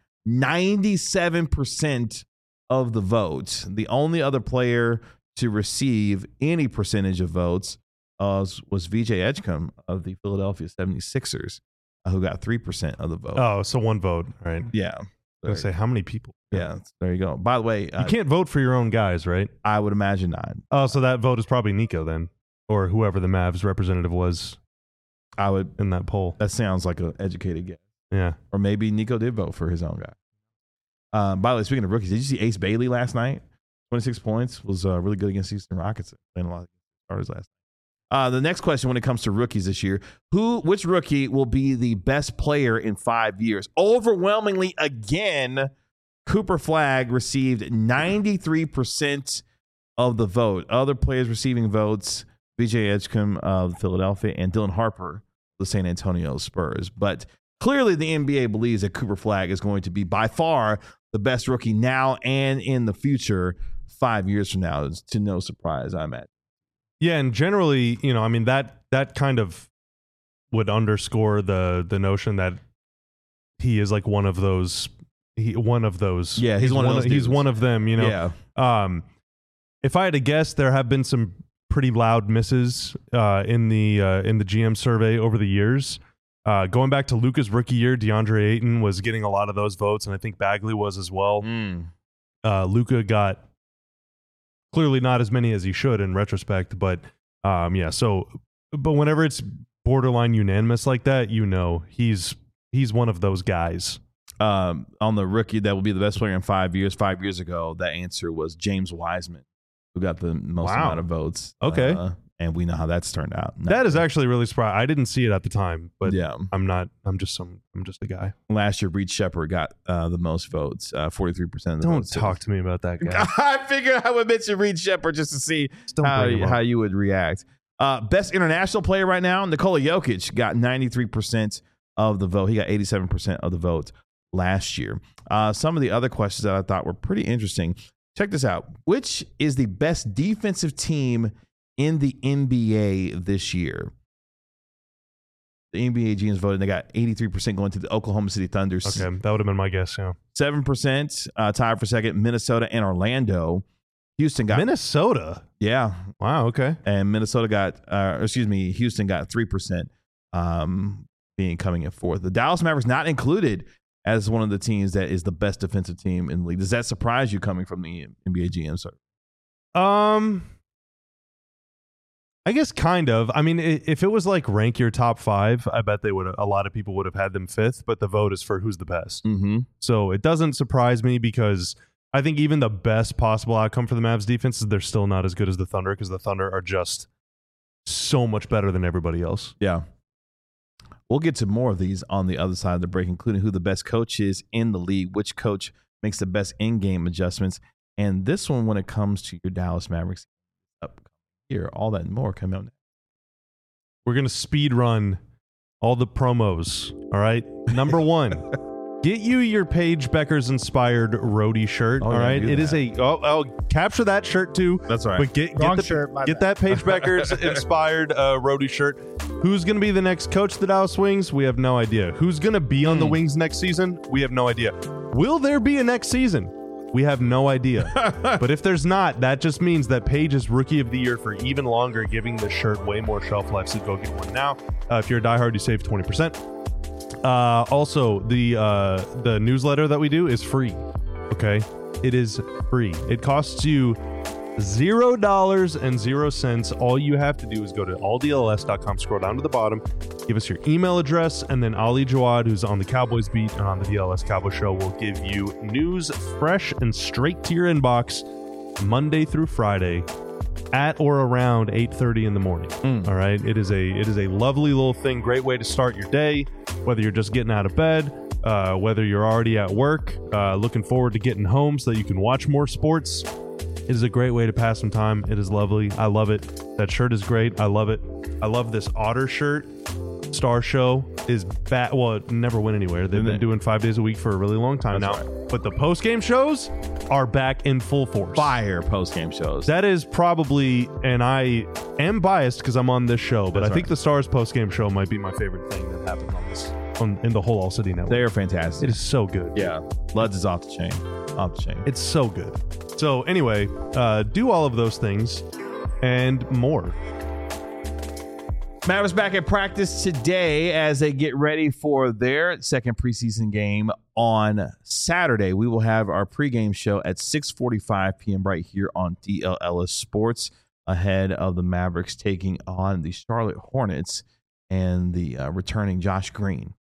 97% of the votes. The only other player to receive any percentage of votes was VJ Edgecombe of the Philadelphia 76ers, who got 3% of the vote. Oh, so one vote, right? Yeah. I was going to say, how many people? Yeah, there you go. By the way, you can't vote for your own guys, right? I would imagine not. Oh, so that vote is probably Nico then, or whoever the Mavs representative was I would in that poll. That sounds like an educated guess. Yeah. Or maybe Nico did vote for his own guy. By the way, speaking of rookies, did you see Ace Bailey last night? 26 points, was really good against Houston Rockets. Playing a lot of starters last night. The next question when it comes to rookies this year, which rookie will be the best player in 5 years? Overwhelmingly, again, Cooper Flagg received 93% of the vote. Other players receiving votes, VJ Edgecombe of Philadelphia and Dylan Harper of the San Antonio Spurs. But clearly the NBA believes that Cooper Flagg is going to be by far the best rookie now and in the future 5 years from now. It's to no surprise, I'm at. Yeah, and generally, I mean, that kind of would underscore the notion that he is like one of those. Yeah, he's one of those. He's one of them. Yeah. If I had to guess, there have been some pretty loud misses in the GM survey over the years. Going back to Luka's rookie year, DeAndre Ayton was getting a lot of those votes, and I think Bagley was as well. Luka got clearly not as many as he should in retrospect, but yeah. So, but whenever it's borderline unanimous like that, he's one of those guys. On the rookie that will be the best player in 5 years. 5 years ago, that answer was James Wiseman, who got the most amount of votes. Okay. And we know how that's turned out. That is actually really surprising. I didn't see it at the time, but yeah, I'm just a guy. Last year, Reed Shepherd got the most votes, 43% of the votes. Don't talk to me about that guy. I figured I would mention Reed Shepherd just to see how you would react. Best international player right now, Nikola Jokic got 93% of the vote. He got 87% of the vote last year. Some of the other questions that I thought were pretty interesting. Check this out. Which is the best defensive team in the NBA this year? The NBA GMs voted, and they got 83% going to the Oklahoma City Thunder. Okay, that would have been my guess, yeah. 7% tied for second, Minnesota and Orlando. Houston got... Minnesota? Yeah. Wow, okay. And Minnesota got... Houston got 3%, coming in fourth. The Dallas Mavericks not included as one of the teams that is the best defensive team in the league. Does that surprise you coming from the NBA GM, sir? I guess kind of. I mean, if it was like rank your top 5, I bet a lot of people would have had them 5th, but the vote is for who's the best. Mm-hmm. So it doesn't surprise me because I think even the best possible outcome for the Mavs defense is they're still not as good as the Thunder because the Thunder are just so much better than everybody else. Yeah. We'll get to more of these on the other side of the break, including who the best coach is in the league, which coach makes the best in-game adjustments, and this one when it comes to your Dallas Mavericks upcoming year. All that and more coming out next. We're going to speed run all the promos, all right? Number 1, get you your Paige Beckers inspired roadie shirt, all right? It is I'll capture that shirt too. That's right. But get that Paige Beckers inspired roadie shirt. Who's going to be the next coach of the Dallas Wings? We have no idea. Who's going to be on the Wings next season? We have no idea. Will there be a next season? We have no idea. But if there's not, that just means that Paige is Rookie of the Year for even longer, giving the shirt way more shelf life, so go get one now. If you're a diehard, you save 20%. Also, the newsletter that we do is free. Okay, it is free. It costs you $0.00. All you have to do is go to alldls.com, scroll down to the bottom, give us your email address, and then Ali Jawad, who's on the Cowboys beat and on the DLS Cowboy Show, will give you news fresh and straight to your inbox Monday through Friday at or around 8:30 in the morning. All right, it is a lovely little thing, great way to start your day, whether you're just getting out of bed, whether you're already at work, looking forward to getting home so that you can watch more sports. It is a great way to pass some time. It is lovely. I love it. That shirt is great. I love it. I love this Otter shirt. Star Show is back. Well, it never went anywhere. They've been doing 5 days a week for a really long time now. Right. But the post-game shows are back in full force. Fire post-game shows. That is probably, and I am biased because I'm on this show, but That's I think right. the Stars post-game show might be my favorite thing that happened on this in the whole All City Network. They are fantastic. It is so good. Yeah. Luds is off the chain. Off the chain. It's so good. So anyway, do all of those things and more. Mavericks back at practice today as they get ready for their second preseason game on Saturday. We will have our pregame show at 6:45 p.m. right here on DLLS Sports ahead of the Mavericks taking on the Charlotte Hornets and the returning Josh Green,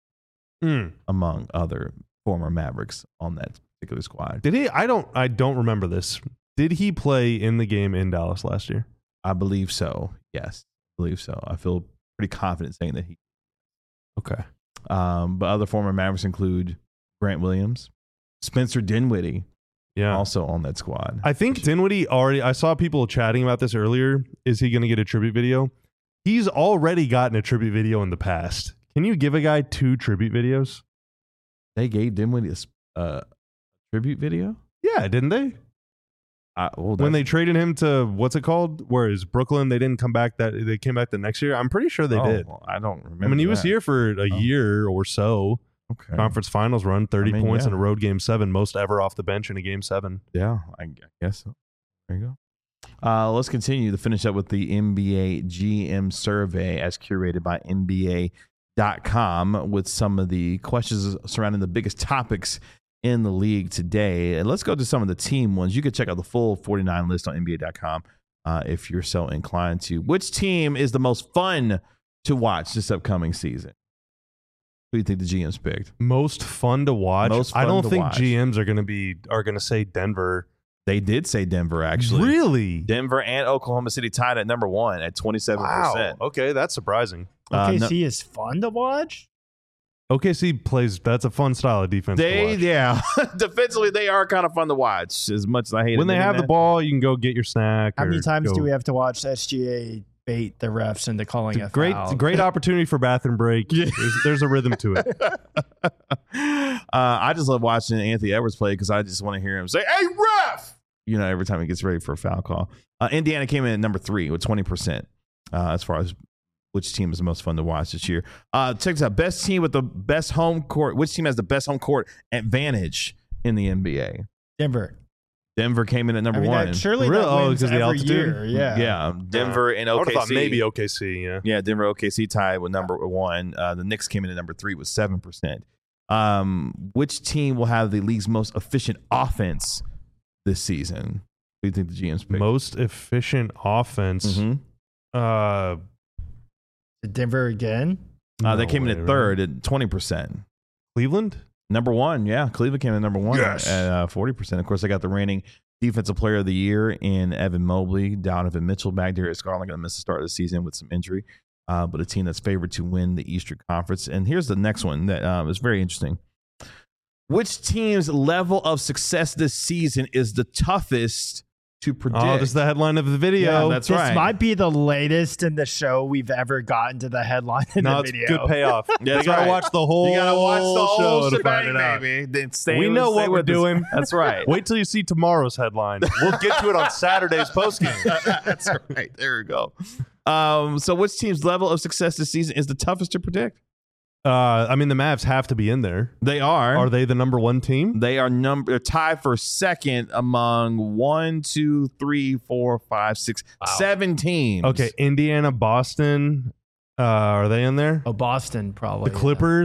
among other former Mavericks on that particular squad. Did he? I don't remember this. Did he play in the game in Dallas last year? I believe so. Yes, I believe so. I feel pretty confident saying that he. Okay. But other former Mavericks include Grant Williams, Spencer Dinwiddie, Yeah. also on that squad. I think Dinwiddie already, I saw people chatting about this earlier. Is he going to get a tribute video? He's already gotten a tribute video in the past. Can you give a guy 2 tribute videos? They gave Dinwiddie a tribute video. Yeah, didn't they? When they traded him to, what's it called? Whereas Brooklyn, they didn't come back they came back the next year. I'm pretty sure they did. Well, I don't remember. I mean, he was that. here for a year or so. Okay. Conference finals run, 30 points yeah. in a road game 7, most ever off the bench in a game 7. Yeah, I guess so. There you go. Let's continue to finish up with the NBA GM survey as curated by NBA.com with some of the questions surrounding the biggest topics in the league today. And let's go to some of the team ones. You can check out the full 49 list on NBA.com if you're so inclined to. Which team is the most fun to watch this upcoming season? Who do you think the GMs picked? Most fun to watch? Most fun I don't to think watch. GMs are going to say Denver. They did say Denver, actually. Really? Denver and Oklahoma City tied at number 1 at 27%. Wow. Okay, that's surprising. OKC is fun to watch. OKC plays, that's a fun style of defense to watch. Yeah. Defensively, they are kind of fun to watch, as much as I hate it. When they have the ball, you can go get your snack. How many or times go- do we have to watch SGA bait the refs into calling a foul? Great opportunity for bathroom break. Yeah. There's a rhythm to it. I just love watching Anthony Edwards play because I just want to hear him say, "Hey, ref!" Every time he gets ready for a foul call. Indiana came in at number 3 with 20% as far as which team is the most fun to watch this year. Check this out. Best team with the best home court. Which team has the best home court advantage in the NBA? Denver. Denver came in at number 1. Surely Really? that wins because of the every altitude? year. Yeah. Yeah. Denver and I would have thought OKC. maybe OKC, yeah. Yeah, Denver OKC tied with number 1. The Knicks came in at number 3 with 7%. Which team will have the league's most efficient offense this season? Who do you think the GMs picked? Most efficient offense. Mhm. Denver again. They came in at 3rd right? at 20%. Cleveland? Number 1, yeah. Cleveland came in number 1 Yes. at 40%. Of course, they got the reigning defensive player of the year in Evan Mobley. Donovan Mitchell back there. It's going to miss the start of the season with some injury. But a team that's favored to win the Eastern Conference. And here's the next one that is very interesting. Which team's level of success this season is the toughest to predict? Oh, this is the headline of the video. Yeah, that's This right. might be the latest in the show we've ever gotten to the headline in No, the it's video. good payoff. That's you gotta right. watch the whole You gotta watch the whole show to find shebang, it out. baby. Then stay We with- know stay what we're with us. doing. That's right. Wait till you see tomorrow's headline. We'll get to it on Saturday's postgame. That's right. There we go. So which team's level of success this season is the toughest to predict? I mean, the Mavs have to be in there. They are. Are they the number 1 team? They are they're tied for second among 1, 2, 3, 4, 5, 6, 7 teams. Okay, Indiana, Boston. Are they in there? Oh, Boston probably. The Clippers.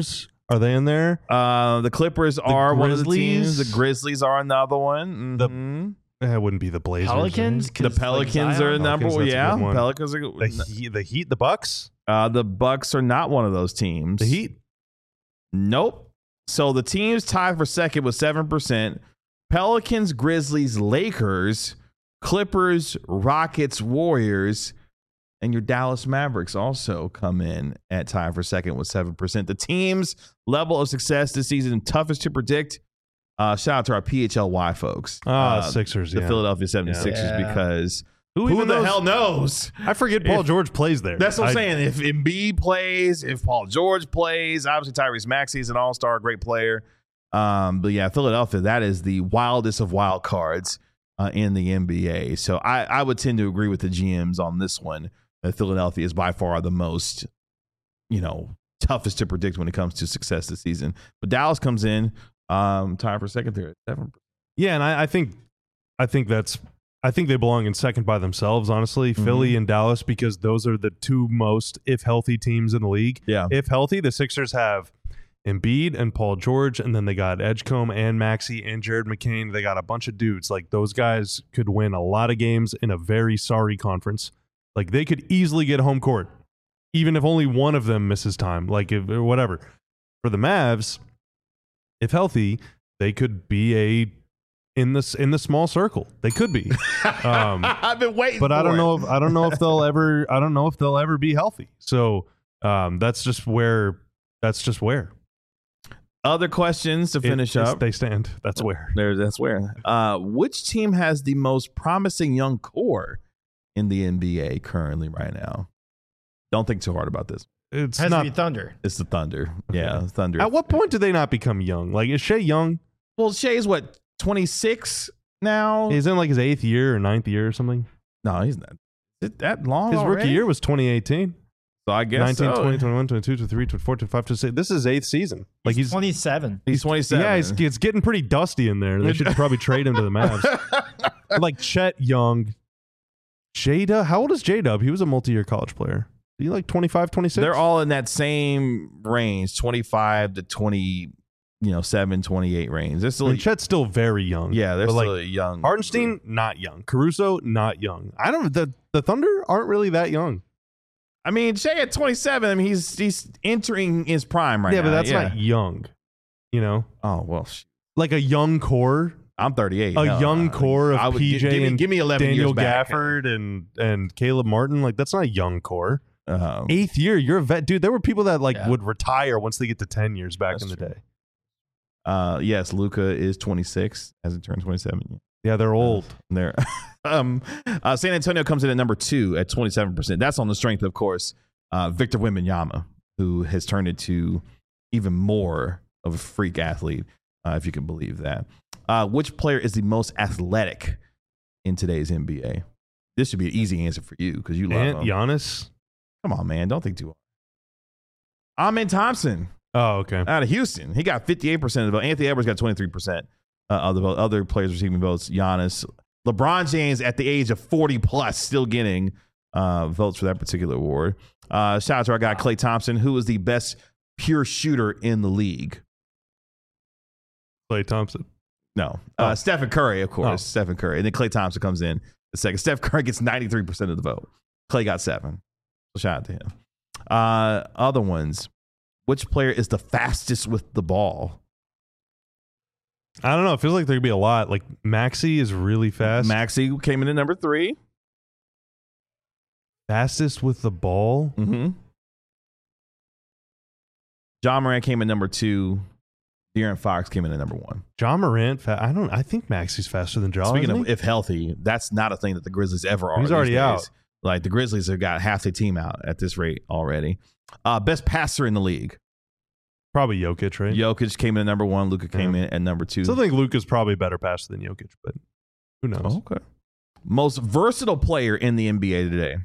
Are they in there? The Clippers are one of the teams. Grizzlies? The Grizzlies are another one. Mhm. It wouldn't be the Blazers. Pelicans? The Pelicans are number one. Pelicans, that's a Yeah, good one. Pelicans are The Heat, the Bucks, the Bucks are not one of those teams. the Heat. Nope. So the teams tied for second with 7%. Pelicans, Grizzlies, Lakers, Clippers, Rockets, Warriors, and your Dallas Mavericks also come in at tie for second with 7%. The team's level of success this season, toughest to predict. Shout out to our PHLY folks. Sixers, The Philadelphia 76ers, Yeah. because Who who even the knows? hell knows? I forget Paul George plays there. That's what I'm saying. If Embiid plays, if Paul George plays, obviously Tyrese Maxey is an all-star, great player. But yeah, Philadelphia, that is the wildest of wild cards in the NBA. So I would tend to agree with the GMs on this one. That Philadelphia is by far the most, toughest to predict when it comes to success this season. But Dallas comes in, tied for second there at 7%. Yeah, and I think they belong in second by themselves, honestly. Philly and Dallas, because those are the two most, if healthy, teams in the league. Yeah. If healthy, the Sixers have Embiid and Paul George, and then they got Edgecombe and Maxey and Jared McCain. They got a bunch of dudes. Like, those guys could win a lot of games in a very sorry conference. Like, they could easily get home court, even if only one of them misses time, or whatever. For the Mavs, if healthy, they could be in the small circle. They could be. I've been waiting, But I don't know if they'll ever be healthy. So that's just where. Other questions to finish up. They stand. That's where. That's where. Which team has the most promising young core in the NBA currently right now? Don't think too hard about this. It's Has not. to be Thunder. It's the Thunder. Okay. Yeah, Thunder. At what point do they not become young? Like, is Shea young? Well, Shea's what, 26 now? He's in like his 8th year or 9th year or something. No, he's not. Is it that long His already? rookie year was 2018. So I guess 19, so. 20, 21, 22, 23, 24, 25, 26. This is his 8th season. Like, he's 27. He's 27. yeah, it's getting pretty dusty in there. They should probably trade him to the Mavs. Like Chet Young. J-Dub. How old is J-Dub? He was a multi-year college player. Is he like 25, 26? They're all in that same range, 25 to 27, 28 range. They're still, I mean, Chet's still very young. yeah, they're but, still like, a young. Hartenstein, not young. Caruso, not young. I don't. The Thunder aren't really that young. I mean, Shea at 27. I mean, he's entering his prime right now. Yeah, but that's not young. You know, Oh well, like a young core, I'm 38. a No, young core of I would PJ and give me 11 Daniel years back. Gafford and Caleb Martin. Like, that's not a young core. 8th year, you're a vet, dude. There were people that would retire once they get to 10 years back That's in the true. day. Yes, Luka is 26, hasn't turned 27 yet. Yeah, they're old. There. San Antonio comes in at number 2 at 27%. That's on the strength, of course, Victor Wembanyama, who has turned into even more of a freak athlete, if you can believe that. Which player is the most athletic in today's NBA? This should be an easy answer for you because you love And him. Giannis. Come on, man. Don't think too hard. Amen Thompson Oh, okay. out of Houston. He got 58% of the vote. Anthony Edwards got 23% of the vote. Other players receiving votes, Giannis. LeBron James at the age of 40 plus still getting votes for that particular award. Shout out to our guy Klay Thompson, who is the best pure shooter in the league. Klay Thompson. No. Oh. Stephen Curry, of course. Oh. Stephen Curry. And then Klay Thompson comes in the second. Steph Curry gets 93% of the vote. Klay got 7. So shout out to him. Other ones. Which player is the fastest with the ball? I don't know. It feels like there could be a lot. Like, Maxey is really fast. Maxey came in at number 3. Fastest with the ball. Mm-hmm. John Morant came in number 2. De'Aaron Fox came in at number 1. John Morant. I think Maxey's faster than John. Speaking of if healthy, that's not a thing that the Grizzlies ever are. He's these already days. out. Like, the Grizzlies have got half the team out at this rate already. Best passer in the league. Probably Jokic, right? Jokic came in at number 1. Luka came in at number 2. Still think Luka's probably a better passer than Jokic, but who knows? Oh, okay. Most versatile player in the NBA today.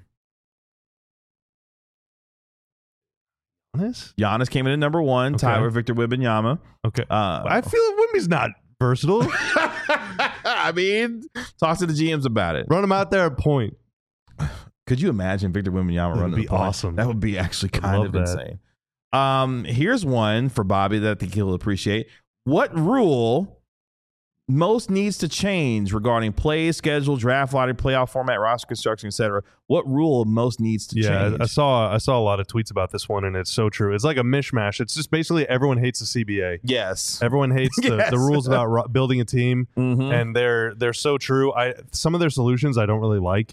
Giannis came in at number 1. Okay. Tied with Victor Wembanyama. Okay. I feel Wemby's not versatile. I mean, talk to the GMs about it. Run him out there at point. Could you imagine Victor Wembanyama That would running be the point? awesome. That would be actually I'd kind love of that. insane. Here's one for Bobby that I think he'll appreciate. What rule most needs to change regarding play schedule, draft lottery, playoff format, roster construction, etc.? What rule most needs to change? I saw a lot of tweets about this one, and it's so true. It's like a mishmash. It's just basically everyone hates the CBA. Yes. Everyone hates the rules about building a team, Mhm. and they're so true. Some of their solutions I don't really like,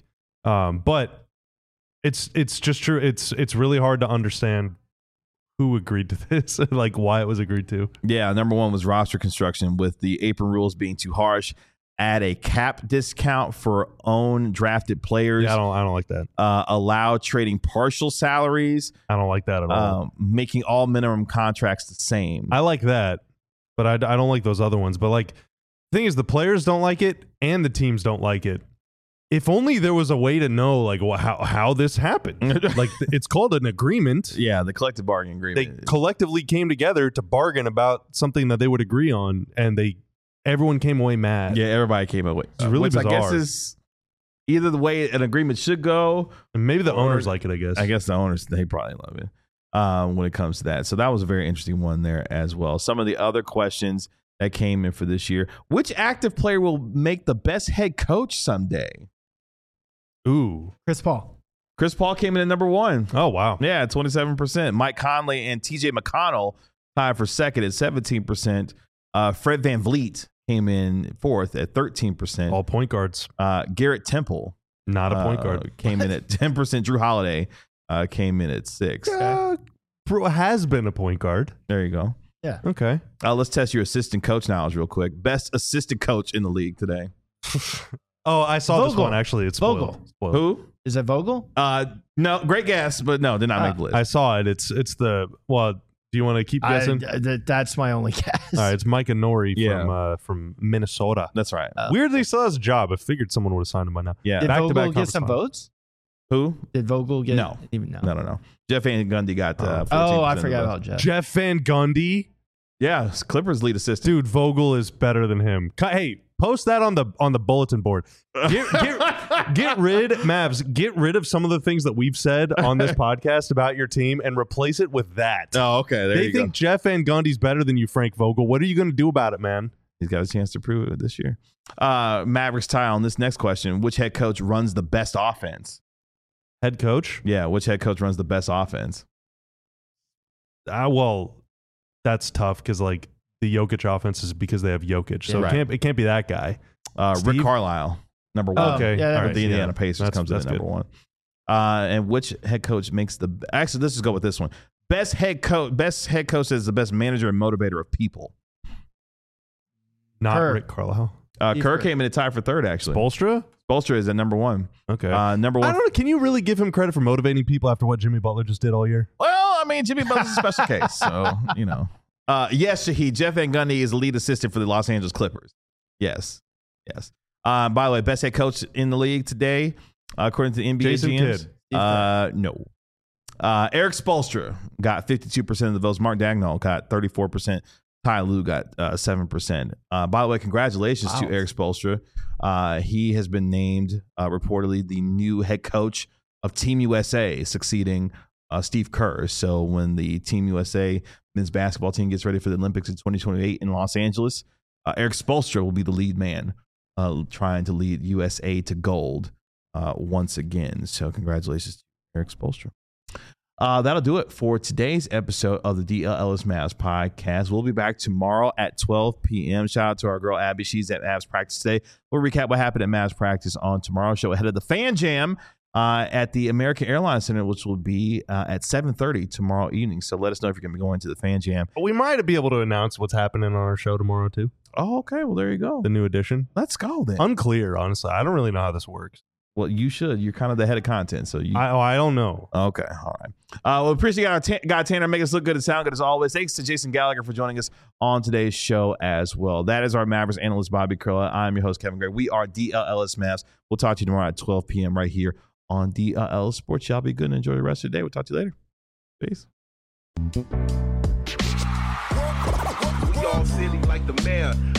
but it's just true. It's really hard to understand who agreed to this, like why it was agreed to. Yeah, number one was roster construction, with the apron rules being too harsh. Add a cap discount for own drafted players. Yeah, I don't like that. Allow trading partial salaries. I don't like that at all. Making all minimum contracts the same. I like that, but I don't like those other ones. But like, the thing is, the players don't like it, and the teams don't like it. If only there was a way to know, like, how this happened. Like, it's called an agreement. Yeah, the collective bargaining They agreement. collectively came together to bargain about something that they would agree on, and everyone came away mad. Yeah, everybody came away. It's really which bizarre. I guess is either the way an agreement should go. And maybe the Or- owners like it, I guess. I guess the owners, they probably love it when it comes to that. So that was a very interesting one there as well. Some of the other questions that came in for this year. Which active player will make the best head coach someday? Ooh. Chris Paul. Chris Paul came in at number one. Oh, wow. Yeah, 27%. Mike Conley and TJ McConnell tied for second at 17%. Fred VanVleet came in fourth at 13%. All point guards. Garrett Temple Not a point guard. came in at 10%. Drew Holiday came in at 6%. Bro has been a point guard. There you go. Okay. Let's test your assistant coach knowledge real quick. Best assistant coach in the league today. Oh, I saw this Vogel. one, actually. It's spoiled. Vogel. Spoiled. Who? Is it Vogel? No, great guess, but no, did not make the list. I saw it. It's do you want to keep guessing? That's my only guess. All right, it's Micah Nori Yeah. from Minnesota. That's right. Weirdly, he still has a job. I figured someone would have signed him by now. Yeah. Did back-to-back Vogel get some conference votes? Who? Did Vogel get No. even no? No. Jeff Van Gundy got 14% Oh, I of the forgot votes. about Jeff. Jeff Van Gundy. Yeah, Clippers lead assistant. Dude, Vogel is better than him. Hey, post that on the bulletin board. Get rid, Mavs, get rid of some of the things that we've said on this podcast about your team and replace it with that. Oh, okay. There They you think go. Jeff Van Gundy's better than you, Frank Vogel. What are you going to do about it, man? He's got a chance to prove it this year. Mavericks tie on this next question. Which head coach runs the best offense? Head coach? Yeah, which head coach runs the best offense? Well, that's tough because like the Jokic offense is because they have Jokic, so Yeah, it can't be that guy. Rick Steve? Carlisle, number one. Okay, yeah, all Of right, the Indiana yeah. Pacers comes in at that's number good. one. And which head coach makes the actually? Let's just go with this one. Best head coach is the best manager and motivator of people. Not Kerr. Rick Carlisle. Steve Kerr Kerr. came in at tie for third. Actually, Bolstra? Spoelstra is at number one. Okay. Number I one. don't know. Can you really give him credit for motivating people after what Jimmy Butler just did all year? Well, I mean, Jimmy Butler's a special case, so you know. Yes, Shahid. Jeff Van Gundy is the lead assistant for the Los Angeles Clippers. Yes. By the way, best head coach in the league today, according to the NBA Jason GMs. Kidd. No. Eric Spoelstra got 52% of the votes. Mark Dagnall got 34%. Ty Lue got 7%. By the way, congratulations to Wow. Eric Spoelstra. He has been named reportedly the new head coach of Team USA, succeeding Steve Kerr. So when the Team USA men's basketball team gets ready for the Olympics in 2028 in Los Angeles, Eric Spoelstra will be the lead man trying to lead USA to gold once again. So congratulations to Eric Spoelstra. That'll do it for today's episode of the DLLS Mavs podcast. We'll be back tomorrow at 12 p.m. Shout out to our girl Abby. She's at Mavs practice today. We'll recap what happened at Mavs practice on tomorrow's show ahead of the Fan Jam at the American Airlines Center, which will be at 7:30 tomorrow evening. So let us know if you're going to be going to the Fan Jam. We might be able to announce what's happening on our show tomorrow, too. Oh, okay. Well, there you go. The new edition. Let's go then. Unclear, honestly. I don't really know how this works. Well, you should. You're kind of the head of content, so you. I don't know. Okay, all right. Well, appreciate our guy Tanner making us look good and sound good as always. Thanks to Jason Gallagher for joining us on today's show as well. That is our Mavericks analyst Bobby Curla. I'm your host Kevin Gray. We are DLLS Mavs. We'll talk to you tomorrow at 12 p.m. right here on DLL Sports. Y'all be good and enjoy the rest of the day. We'll talk to you later. Peace. We all silly like the mayor.